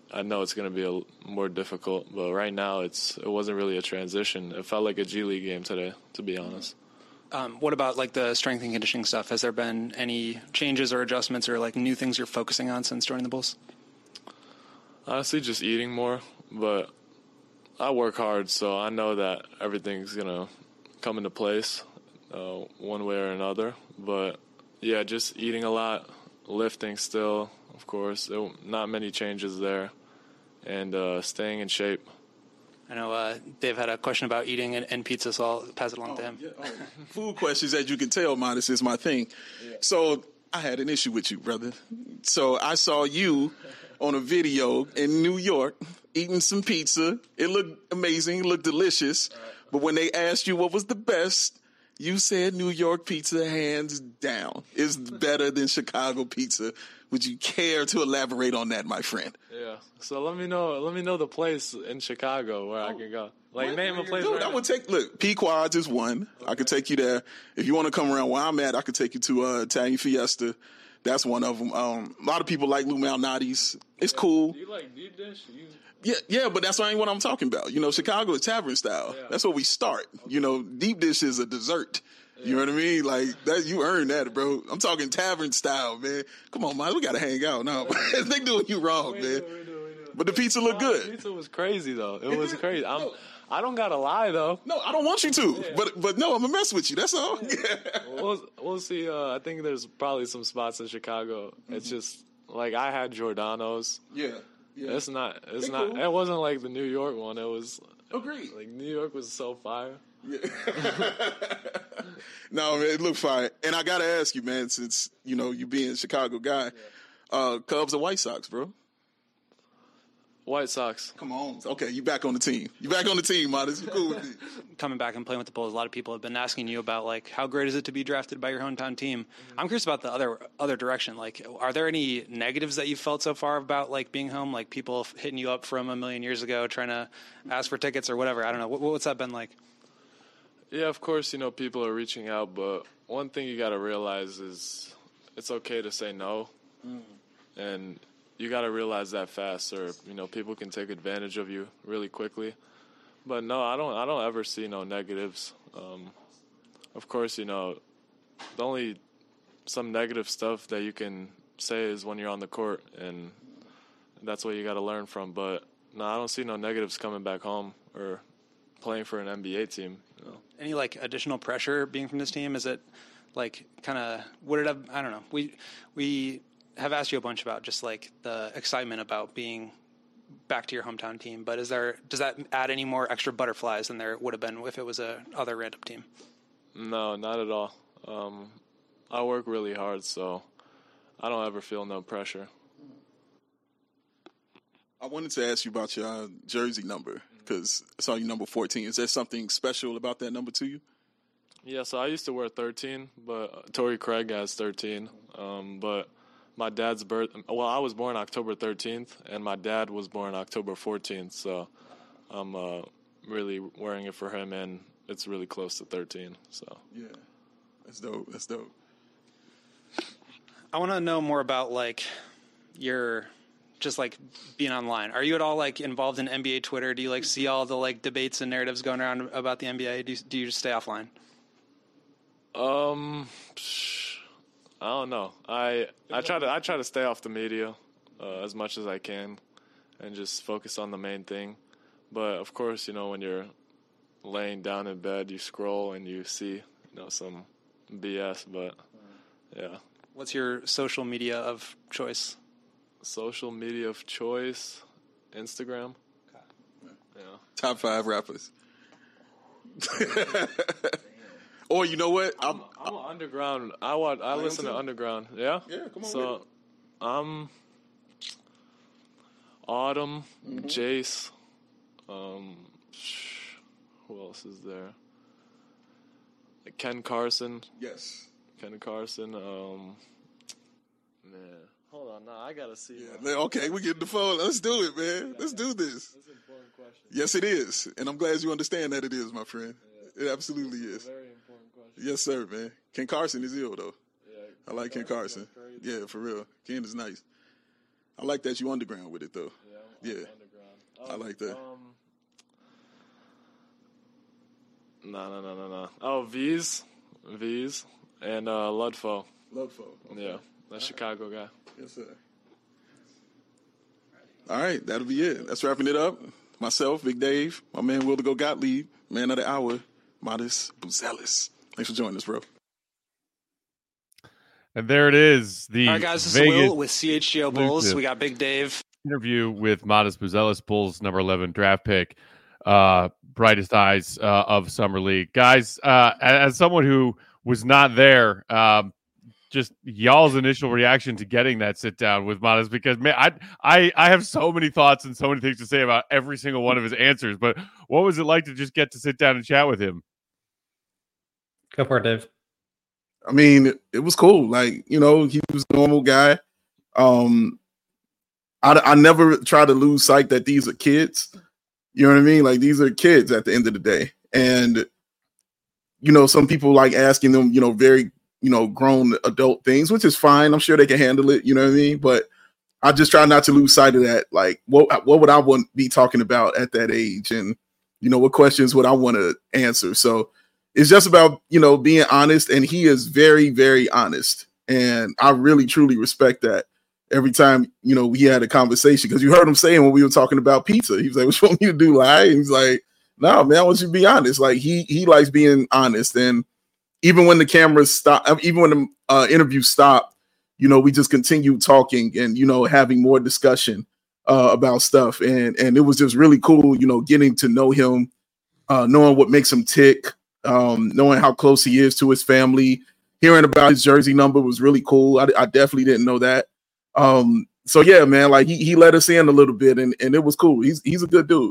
I know it's going to be more difficult. But right now, it wasn't really a transition. It felt like a G League game today, to be honest. What about like the strength and conditioning stuff? Has there been any changes or adjustments or like new things you're focusing on since joining the Bulls? Honestly, just eating more. But I work hard, so I know that everything's going to come into place one way or another. But, yeah, just eating a lot, lifting still, of course. Not many changes there. And staying in shape. I know Dave had a question about eating and pizza, so I'll pass it along to him. Yeah. Food questions, as you can tell, Modest, is my thing. Yeah. So I had an issue with you, brother. So I saw you on a video in New York eating some pizza. It looked amazing. It looked delicious. Right. But when they asked you what was the best, you said New York pizza, hands down, is better than Chicago pizza. Would you care to elaborate on that, my friend? Yeah. So let me know the place in Chicago where I can go. Like, name a place. Dude, I would take. Look, Pequod's is one. Okay. I could take you there. If you want to come around where I'm at, I could take you to Italian Fiesta. That's one of them. A lot of people like Lou Malnati's. It's cool. Do you like deep dish? Yeah, but that's not what I'm talking about. You know, Chicago is tavern style. Yeah. That's where we start. Okay. You know, deep dish is a dessert. Yeah. You know what I mean? Like that, you earned that, bro. I'm talking tavern style, man. Come on, man. We gotta hang out now. They doing you wrong, man. We do. But the pizza looked good. The pizza was crazy though. It was crazy. I don't gotta lie though. No, I don't want you to. Yeah. But no, I'm gonna mess with you. That's all. Yeah. We'll see. I think there's probably some spots in Chicago. Mm-hmm. It's just like I had Giordano's. Yeah. It's not. Cool. It wasn't like the New York one. It was. Agreed. Like New York was so fire. Yeah. No, man, it looked fire. And I gotta ask you, man, since you know you being a Chicago guy, Cubs or White Sox, bro? White Sox. Come on. Okay, you back on the team. You back on the team, Modest. You cool with me. Coming back and playing with the Bulls, a lot of people have been asking you about like how great is it to be drafted by your hometown team. Mm-hmm. I'm curious about the other direction. Like, are there any negatives that you've felt so far about like being home? Like people hitting you up from a million years ago, trying to ask for tickets or whatever. I don't know. What's that been like? Yeah, of course, you know, people are reaching out, but one thing you got to realize is it's okay to say no. Mm. And you got to realize that fast, or you know, people can take advantage of you really quickly. But no, I don't ever see no negatives. Of course, you know, the only some negative stuff that you can say is when you're on the court, and that's what you got to learn from. But no, I don't see no negatives coming back home or playing for an NBA team. You know. Any like additional pressure being from this team? Is it like kind of would it have? I don't know. We have asked you a bunch about just like the excitement about being back to your hometown team, but does that add any more extra butterflies than there would have been if it was a other random team? No, not at all. I work really hard, so I don't ever feel no pressure. I wanted to ask you about your jersey number because I saw you number 14. Is there something special about that number to you? Yeah, so I used to wear 13, but Torrey Craig has 13. But my dad's I was born October 13th, and my dad was born October 14th, so I'm really wearing it for him, and it's really close to 13. So yeah, that's dope. That's dope. I want to know more about like your just like being online. Are you at all like involved in NBA Twitter? Do you like see all the like debates and narratives going around about the NBA? Do you just stay offline? I don't know. I try to stay off the media as much as I can and just focus on the main thing. But of course, you know, when you're laying down in bed, you scroll and you see, some BS. But yeah. What's your social media of choice? Social media of choice, Instagram. Okay. Yeah. Top 5 rappers. Or you know what? I'm underground. I listen to underground. Yeah. Yeah. Come on. So, I'm Autumn, Jace. Who else is there? Ken Carson. Yes. Ken Carson. Man, hold on. Now I gotta see. Yeah. Okay, we get the phone. Let's do it, man. Let's do this. That's an important question. Yes, it is, and I'm glad you understand that it is, my friend. Yeah. It absolutely is. Very important question. Yes, sir, man. Ken Carson is ill, though. Yeah, I like Ken Carson. Yeah, for real. Ken is nice. I like that you underground with it, though. Yeah, Yeah. I like that. No. Oh, V's, and Ludfo. Ludfo. Okay. Yeah, that Chicago guy. Yes, sir. All right, that'll be it. That's wrapping it up. Myself, Big Dave, my man Will to Go Gottlieb, man of the hour, Modest Buzelis. Thanks for joining us, bro. And there it is. All right, guys, this is Will with CHGO Bulls. We got Big Dave. Interview with Modest Buzelis, Bulls number 11 draft pick, brightest eyes of Summer League. Guys, as someone who was not there, just y'all's initial reaction to getting that sit down with Modest, because man, I have so many thoughts and so many things to say about every single one of his answers. But what was it like to just get to sit down and chat with him? Go for it, Dave. I mean, it was cool. Like, he was a normal guy. I never try to lose sight that these are kids. You know what I mean? Like, these are kids at the end of the day. And, some people like asking them, very, grown adult things, which is fine. I'm sure they can handle it. You know what I mean? But I just try not to lose sight of that. Like, what would I want to be talking about at that age? And, what questions would I want to answer? So it's just about, being honest. And he is very, very honest. And I really, truly respect that. Every time, we had a conversation, because you heard him saying when we were talking about pizza, he was like, "What you want me to do, lie?" And he's like, "No, man, I want you to be honest." Like, he likes being honest. And even when the cameras stop, even when the interview stopped, we just continued talking and, having more discussion about stuff. And it was just really cool, getting to know him, knowing what makes him tick, knowing how close he is to his family. Hearing about his jersey number was really cool. I definitely didn't know that. So yeah, man, like he let us in a little bit, and it was cool. He's a good dude.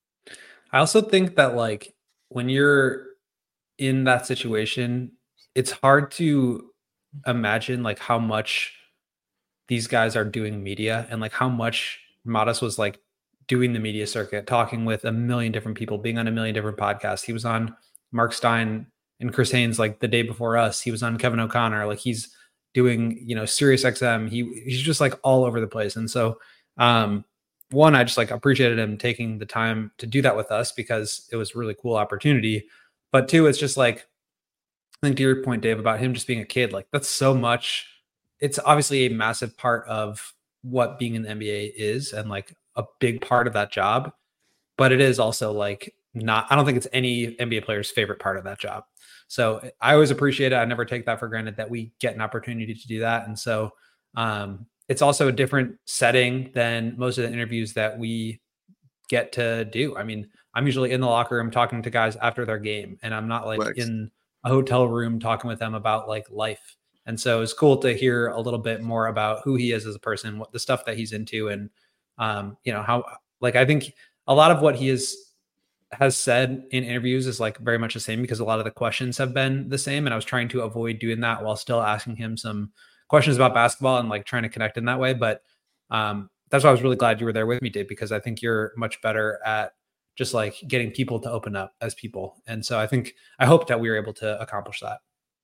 I also think that, like, when you're in that situation, it's hard to imagine like how much these guys are doing media, and like how much Modest was like doing the media circuit, talking with a million different people, being on a million different podcasts. He was on Mark Stein and Chris Haynes like the day before us. He was on Kevin O'Connor. Like, he's doing, Sirius XM. He's just like all over the place. And so, one, I just like appreciated him taking the time to do that with us, because it was a really cool opportunity. But two, it's just like, I think to your point, Dave, about him just being a kid, like that's so much. It's obviously a massive part of what being in the NBA is, and like a big part of that job. But it is also like I don't think it's any NBA player's favorite part of that job. So I always appreciate it. I never take that for granted that we get an opportunity to do that. And so it's also a different setting than most of the interviews that we get to do. I mean, I'm usually in the locker room talking to guys after their game, and I'm not like in a hotel room talking with them about like life. And so it's cool to hear a little bit more about who he is as a person, what the stuff that he's into, and how, like, I think a lot of what he has said in interviews is like very much the same, because a lot of the questions have been the same. And I was trying to avoid doing that while still asking him some questions about basketball and like trying to connect in that way. But that's why I was really glad you were there with me, Dave, because I think you're much better at just like getting people to open up as people. And so I hope that we were able to accomplish that.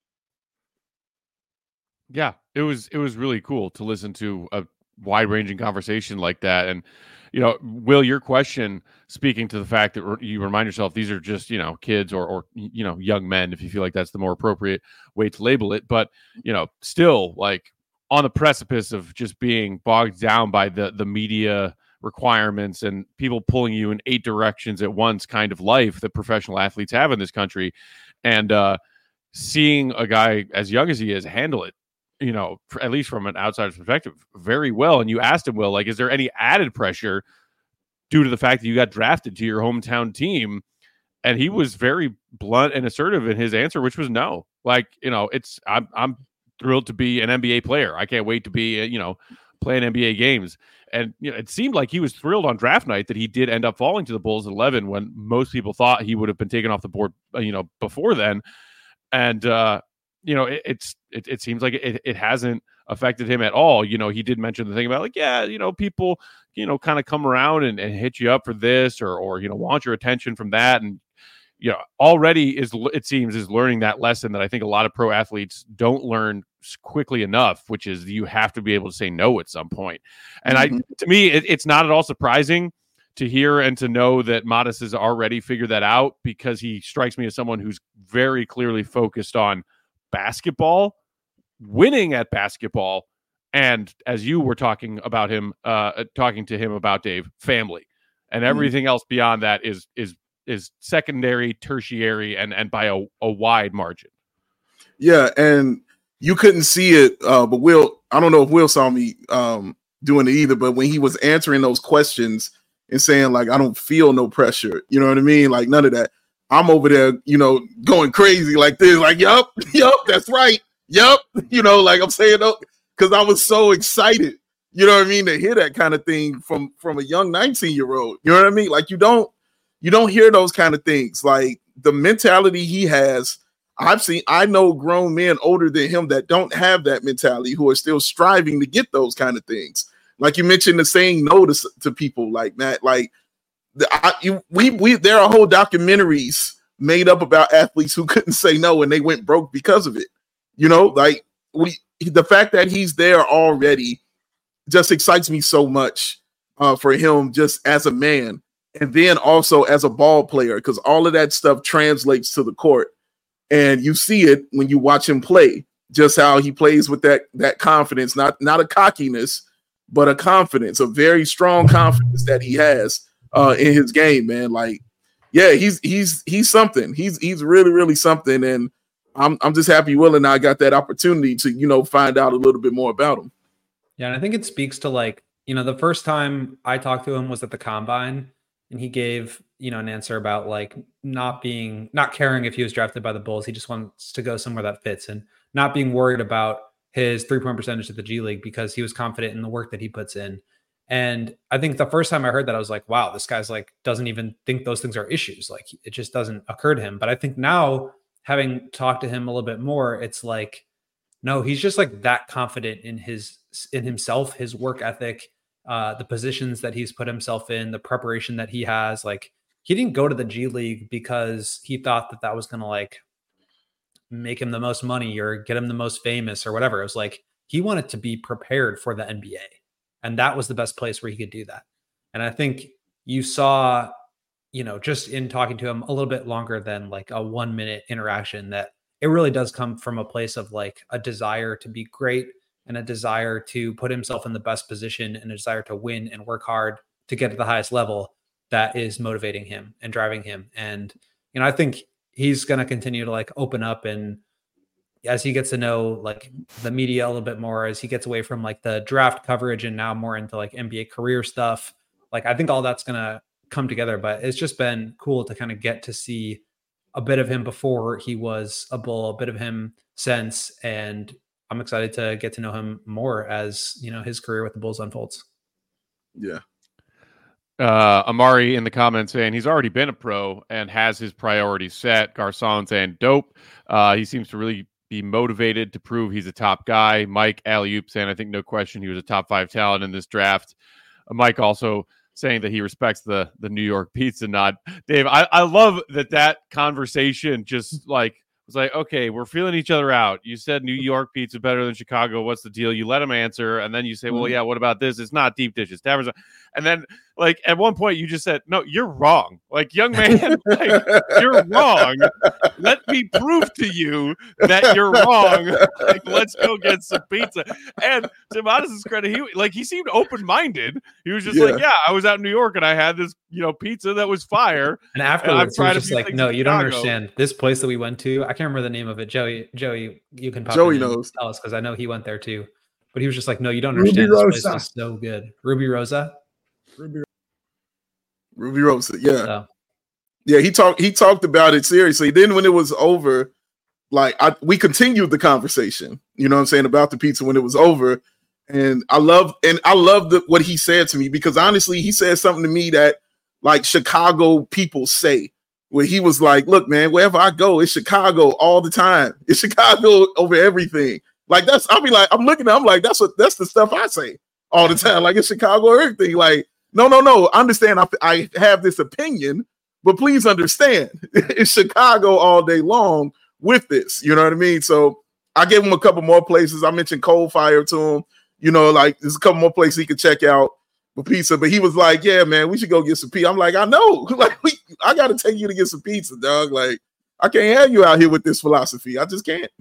Yeah, it was really cool to listen to a wide-ranging conversation like that. And Will, your question, speaking to the fact that you remind yourself these are just, kids or young men, if you feel like that's the more appropriate way to label it. But, still like on the precipice of just being bogged down by the media requirements and people pulling you in 8 directions at once kind of life that professional athletes have in this country. And seeing a guy as young as he is handle it, at least from an outsider's perspective, very well. And you asked him, Will, like, is there any added pressure due to the fact that you got drafted to your hometown team? And he was very blunt and assertive in his answer, which was no. Like, I'm thrilled to be an NBA player. I can't wait to be, playing NBA games. And it seemed like he was thrilled on draft night that he did end up falling to the Bulls at 11 when most people thought he would have been taken off the board, before then. And, it seems like it hasn't affected him at all. He did mention the thing about like, yeah, people, kind of come around and hit you up for this or want your attention from that. And, already it seems is learning that lesson that I think a lot of pro athletes don't learn quickly enough, which is you have to be able to say no at some point. And to me, it's not at all surprising to hear and to know that Modest has already figured that out, because he strikes me as someone who's very clearly focused on basketball, winning at basketball, and as you were talking about him, talking to him about, Dave, family, and everything else beyond that is secondary, tertiary, and by a wide margin. Yeah, and you couldn't see it, but Will, I don't know if Will saw me doing it either, but when he was answering those questions and saying, like, I don't feel no pressure, you know what I mean? Like, none of that. I'm over there, going crazy like this, like, yup, that's right. Yup. Like I'm saying, because I was so excited, you know what I mean, to hear that kind of thing from a young 19-year-old. You know what I mean? Like, you don't hear those kind of things. Like, the mentality he has, I know grown men older than him that don't have that mentality, who are still striving to get those kind of things. Like you mentioned, the saying no to people like that. Like, there are whole documentaries made up about athletes who couldn't say no and they went broke because of it. Like, the fact that he's there already just excites me so much for him, just as a man, and then also as a ball player, because all of that stuff translates to the court. And you see it when you watch him play, just how he plays with that confidence, not a cockiness, but a confidence, a very strong confidence that he has in his game, man. Like, yeah, he's something. He's really, really something. And I'm just happy Will and I got that opportunity to, find out a little bit more about him. Yeah, and I think it speaks to, like, the first time I talked to him was at the Combine, and he gave, an answer about, like, not caring if he was drafted by the Bulls. He just wants to go somewhere that fits, and not being worried about his 3-point percentage at the G League, because he was confident in the work that he puts in. And I think the first time I heard that, I was like, wow, this guy's like, doesn't even think those things are issues. Like, it just doesn't occur to him. But I think now, having talked to him a little bit more, it's like, no, he's just like that confident in himself, his work ethic, the positions that he's put himself in, the preparation that he has. Like, he didn't go to the G League because he thought that was going to, like, make him the most money or get him the most famous or whatever. It was like, he wanted to be prepared for the NBA. And that was the best place where he could do that. And I think you saw, just in talking to him a little bit longer than like a 1-minute interaction, that it really does come from a place of, like, a desire to be great, and a desire to put himself in the best position, and a desire to win and work hard to get to the highest level, that is motivating him and driving him. And, I think he's going to continue to, like, open up, and as he gets to know, like, the media a little bit more, as he gets away from, like, the draft coverage and now more into, like, NBA career stuff, like, I think all that's going to come together. But it's just been cool to kind of get to see a bit of him before he was a Bull, a bit of him since, and I'm excited to get to know him more as, his career with the Bulls unfolds. Yeah. Amari in the comments saying he's already been a pro and has his priorities set. Garcon saying dope. He seems to really be motivated to prove he's a top guy. Mike Alley-oop saying, I think no question he was a top 5 talent in this draft. Mike also saying that he respects the New York pizza nod. Dave, I love that conversation just like was like, okay, we're feeling each other out. You said New York pizza better than Chicago. What's the deal? You let him answer, and then you say, well, yeah, what about this? It's not deep dishes. Taverns. And then, like, at one point, you just said, no, you're wrong. Like, young man, like, you're wrong. Let me prove to you that you're wrong. Like, let's go get some pizza. And to Modest's credit, he seemed open-minded. He was just like, yeah, I was out in New York, and I had this, pizza that was fire. And afterwards, he was just like, no, you don't understand. This place that we went to, I can't remember the name of it. Joey, you can pop Joey knows. Tell us, because I know he went there too. But he was just like, no, you don't understand. This place is so good. Ruby Rosa. Ruby Rosa, yeah. So. Yeah, he talked about it seriously. Then when it was over, like, we continued the conversation, you know what I'm saying, about the pizza when it was over. And I love what he said to me, because honestly, he said something to me that, like, Chicago people say, where he was like, look, man, wherever I go, it's Chicago all the time. It's Chicago over everything. Like, I'm looking at him like, that's the stuff I say all the time. Like, it's Chicago or everything. Like, no. I understand. I have this opinion, but please understand, it's Chicago all day long with this. You know what I mean? So I gave him a couple more places. I mentioned Cold Fire to him. You know, like there's a couple more places he could check out for pizza. But he was like, "Yeah, man, we should go get some pizza." I'm like, "I know. Like, I got to take you to get some pizza, dog. Like, I can't have you out here with this philosophy. I just can't."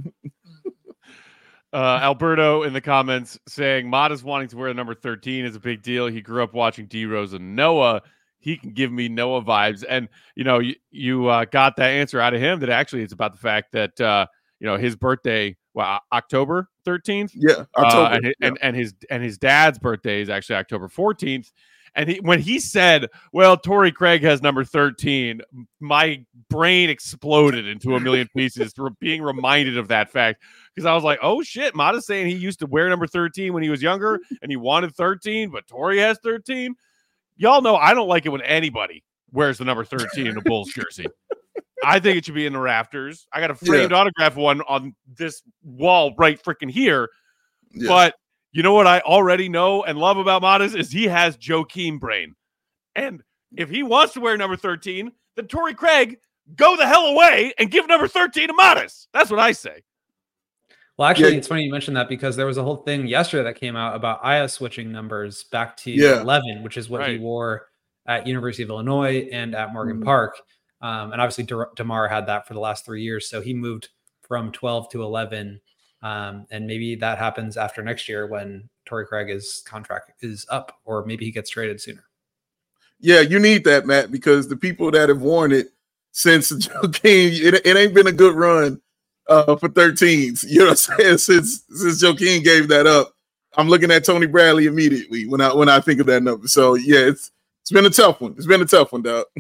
Alberto in the comments saying Modest wanting to wear number 13 is a big deal. He grew up watching D Rose and Noah. He can give me Noah vibes. And, you know, you got that answer out of him that actually it's about the fact that, you know, his birthday, October 13th. Yeah. October. And his dad's birthday is actually October 14th. And when he said, well, Torrey Craig has number 13, my brain exploded into a million pieces being reminded of that fact. Because I was like, oh, shit, Modest saying he used to wear number 13 when he was younger and he wanted 13, but Torrey has 13. Y'all know I don't like it when anybody wears the number 13 in a Bulls jersey. I think it should be in the rafters. I got a framed autograph one on this wall right freaking here. Yeah. But you know what I already know and love about Modest is he has Joakim brain. And if he wants to wear number 13, then Torrey Craig, go the hell away and give number 13 to Modest. That's what I say. Well, actually, it's funny you mentioned that because there was a whole thing yesterday that came out about Aya switching numbers back to 11, which is what he wore at University of Illinois and at Morgan Park. And obviously, DeMar had that for the last 3 years. So he moved from 12 to 11. And maybe that happens after next year when Torrey Craig's contract is up, or maybe he gets traded sooner. Yeah, you need that, Matt, because the people that have worn it since Joakim, it ain't been a good run for 13s. You know what I'm saying? Since Joakim gave that up, I'm looking at Tony Bradley immediately when I think of that number. So yeah, it's been a tough one. It's been a tough one, dog.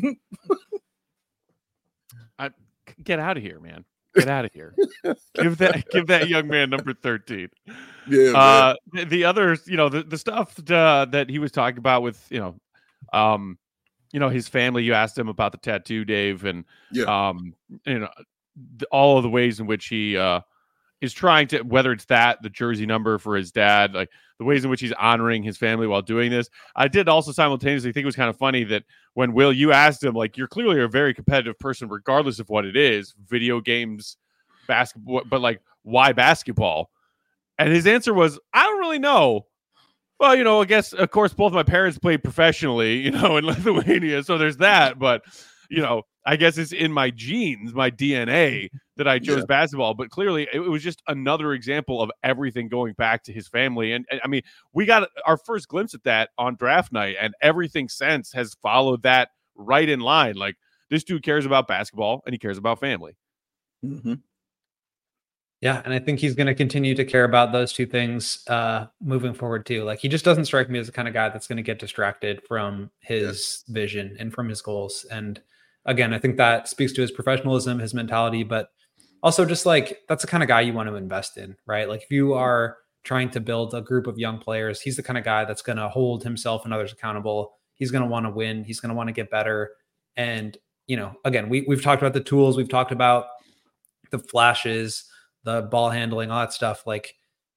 Get out of here, man. Get out of here. Give that young man number 13. Yeah. The others, you know, the stuff that he was talking about with, you know, his family. You asked him about the tattoo, Dave, and you know, all of the ways in which he is trying to, whether it's the jersey number for his dad, like the ways in which he's honoring his family while doing this. I did also simultaneously think it was kind of funny that when Will, you asked him, like, you're clearly a very competitive person, regardless of what it is, video games, basketball, but like, why basketball? And his answer was, I don't really know. Well, you know, I guess, of course, both my parents played professionally, you know, in Lithuania. So there's that. But, you know, I guess it's in my genes, my DNA, that I chose basketball. But clearly, it was just another example of everything going back to his family. And I mean, we got our first glimpse at that on draft night, and everything since has followed that right in line. Like, this dude cares about basketball and he cares about family. Mm-hmm. Yeah, and I think he's going to continue to care about those two things moving forward too. Like, he just doesn't strike me as the kind of guy that's going to get distracted from his vision and from his goals. And again, I think that speaks to his professionalism, his mentality, but also just like, that's the kind of guy you want to invest in, right? Like, if you are trying to build a group of young players, he's the kind of guy that's going to hold himself and others accountable. He's going to want to win. He's going to want to get better. And, you know, again, we've talked about the tools. We've talked about the flashes, the ball handling, all that stuff. Like,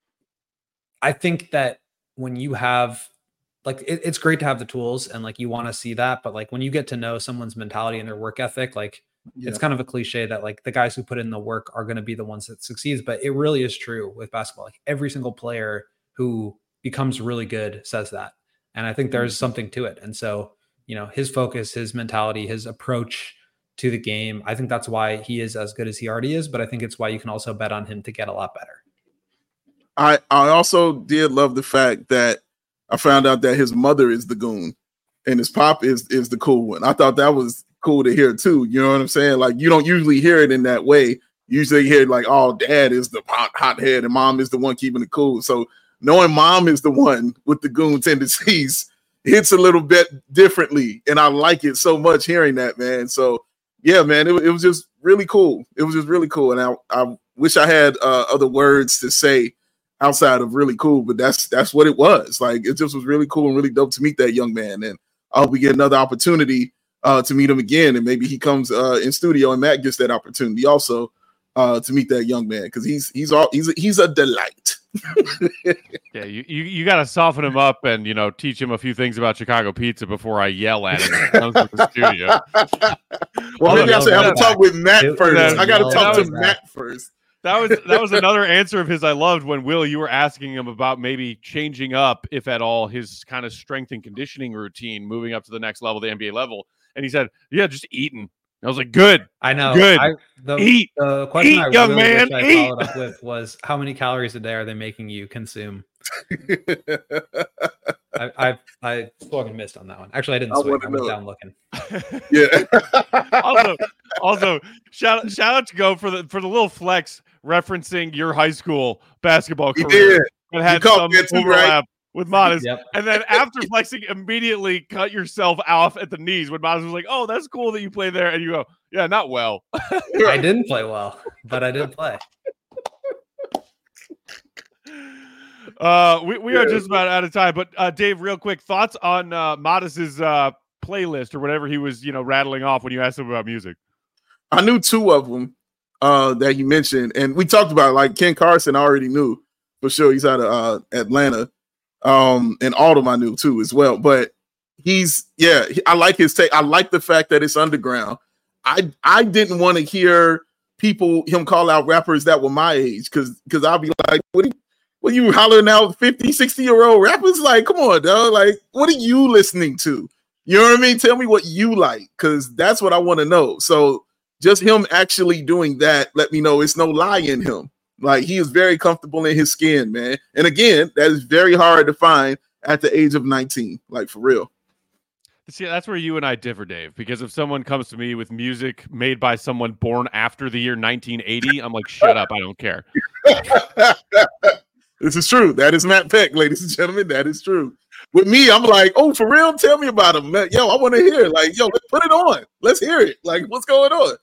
I think that when you have, like, it's great to have the tools and like, you want to see that, but like, when you get to know someone's mentality and their work ethic, like, it's kind of a cliche that like the guys who put in the work are going to be the ones that succeeds, but it really is true with basketball. Like, every single player who becomes really good says that. And I think there's something to it. And so, you know, his focus, his mentality, his approach to the game, I think that's why he is as good as he already is, but I think it's why you can also bet on him to get a lot better. I also did love the fact that I found out that his mother is the goon and his pop is the cool one. I thought that was cool to hear too. You know what I'm saying? Like, you don't usually hear it in that way. You usually hear like, oh, dad is the hothead and mom is the one keeping it cool. So knowing mom is the one with the goon tendencies hits a little bit differently. And I like it so much hearing that, man. So yeah, man, it was just really cool. It was just really cool. And I wish I had other words to say outside of really cool, but that's what it was. Like, it just was really cool and really dope to meet that young man. And I hope we get another opportunity to meet him again. And maybe he comes in studio and Matt gets that opportunity also to meet that young man, because he's a delight. Yeah, you got to soften him up and, you know, teach him a few things about Chicago pizza before I yell at him when he comes to the studio. Well, maybe I should have to talk with Matt first. I got to talk to Matt first. That was another answer of his I loved when, Will, you were asking him about maybe changing up, if at all, his kind of strength and conditioning routine, moving up to the next level, the NBA level. And he said, yeah, just eating. I was like, good. I know. Good. The question Eat, I young really man, wish I eat. followed up with was, how many calories a day are they making you consume? I fucking missed on that one. Actually, I didn't swing. I went down looking. Yeah. also, shout out to Go for the little flex referencing your high school basketball career. That had some overlap with Modest. Yep. And then after flexing, immediately cut yourself off at the knees when Modest was like, oh, that's cool that you play there. And you go, yeah, not well. I didn't play well, but I did play. We are just about out of time, but Dave, real quick, thoughts on Modest's playlist or whatever he was, rattling off when you asked him about music. I knew two of them that you mentioned, and we talked about it. Like Ken Carson, I already knew for sure. He's out of Atlanta, and Autumn I knew too as well. But I like his take. I like the fact that it's underground. I didn't want to hear him call out rappers that were my age because I'll be like, what are you hollering out 50, 60-year-old rappers? Like, come on, dog. Like, what are you listening to? You know what I mean? Tell me what you like, because that's what I want to know. So just him actually doing that, let me know it's no lie in him. Like, he is very comfortable in his skin, man. And again, that is very hard to find at the age of 19, like for real. See, that's where you and I differ, Dave, because if someone comes to me with music made by someone born after the year 1980, I'm like, shut up, I don't care. This is true. That is Matt Peck, ladies and gentlemen. That is true. With me, I'm like, oh, for real? Tell me about him. Yo, I want to hear. Like, yo, let's put it on. Let's hear it. Like, what's going on?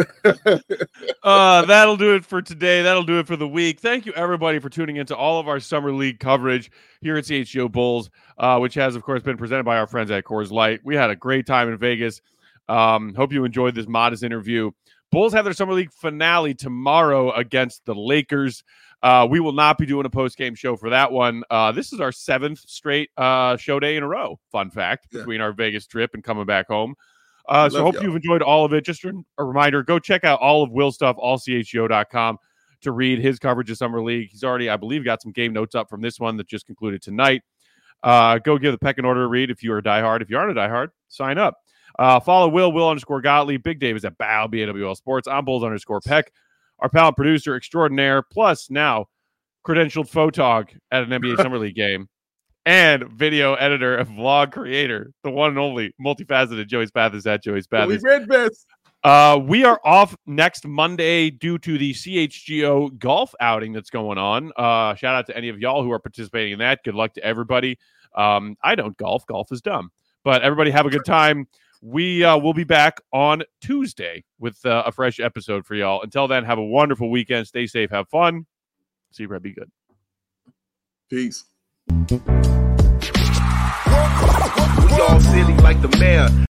That'll do it for today. That'll do it for the week. Thank you, everybody, for tuning into all of our Summer League coverage here at CHGO Bulls, which has, of course, been presented by our friends at Coors Light. We had a great time in Vegas. Hope you enjoyed this Modest interview. Bulls have their Summer League finale tomorrow against the Lakers. We will not be doing a post-game show for that one. This is our 7th straight show day in a row, fun fact, between our Vegas trip and coming back home. So hope you've enjoyed all of it. Just a reminder, go check out all of Will's stuff, allchgo.com, to read his coverage of Summer League. He's already, I believe, got some game notes up from this one that just concluded tonight. Go give the Peckin' Order a read if you are a diehard. If you aren't a diehard, sign up. Follow Will _Gottlieb. Big Dave is at Bow, BAWL Sports. I'm Bulls_Peck. Our pal producer extraordinaire, plus now credentialed photog at an NBA Summer League game, and video editor and vlog creator, the one and only multifaceted Joey Spathis at Joey Spathis. We are off next Monday due to the CHGO golf outing that's going on. Shout out to any of y'all who are participating in that. Good luck to everybody. I don't golf. Golf is dumb. But everybody have a good time. We will be back on Tuesday with a fresh episode for y'all. Until then, have a wonderful weekend. Stay safe. Have fun. See you, Brad. Be good. Peace. We all silly like the mayor.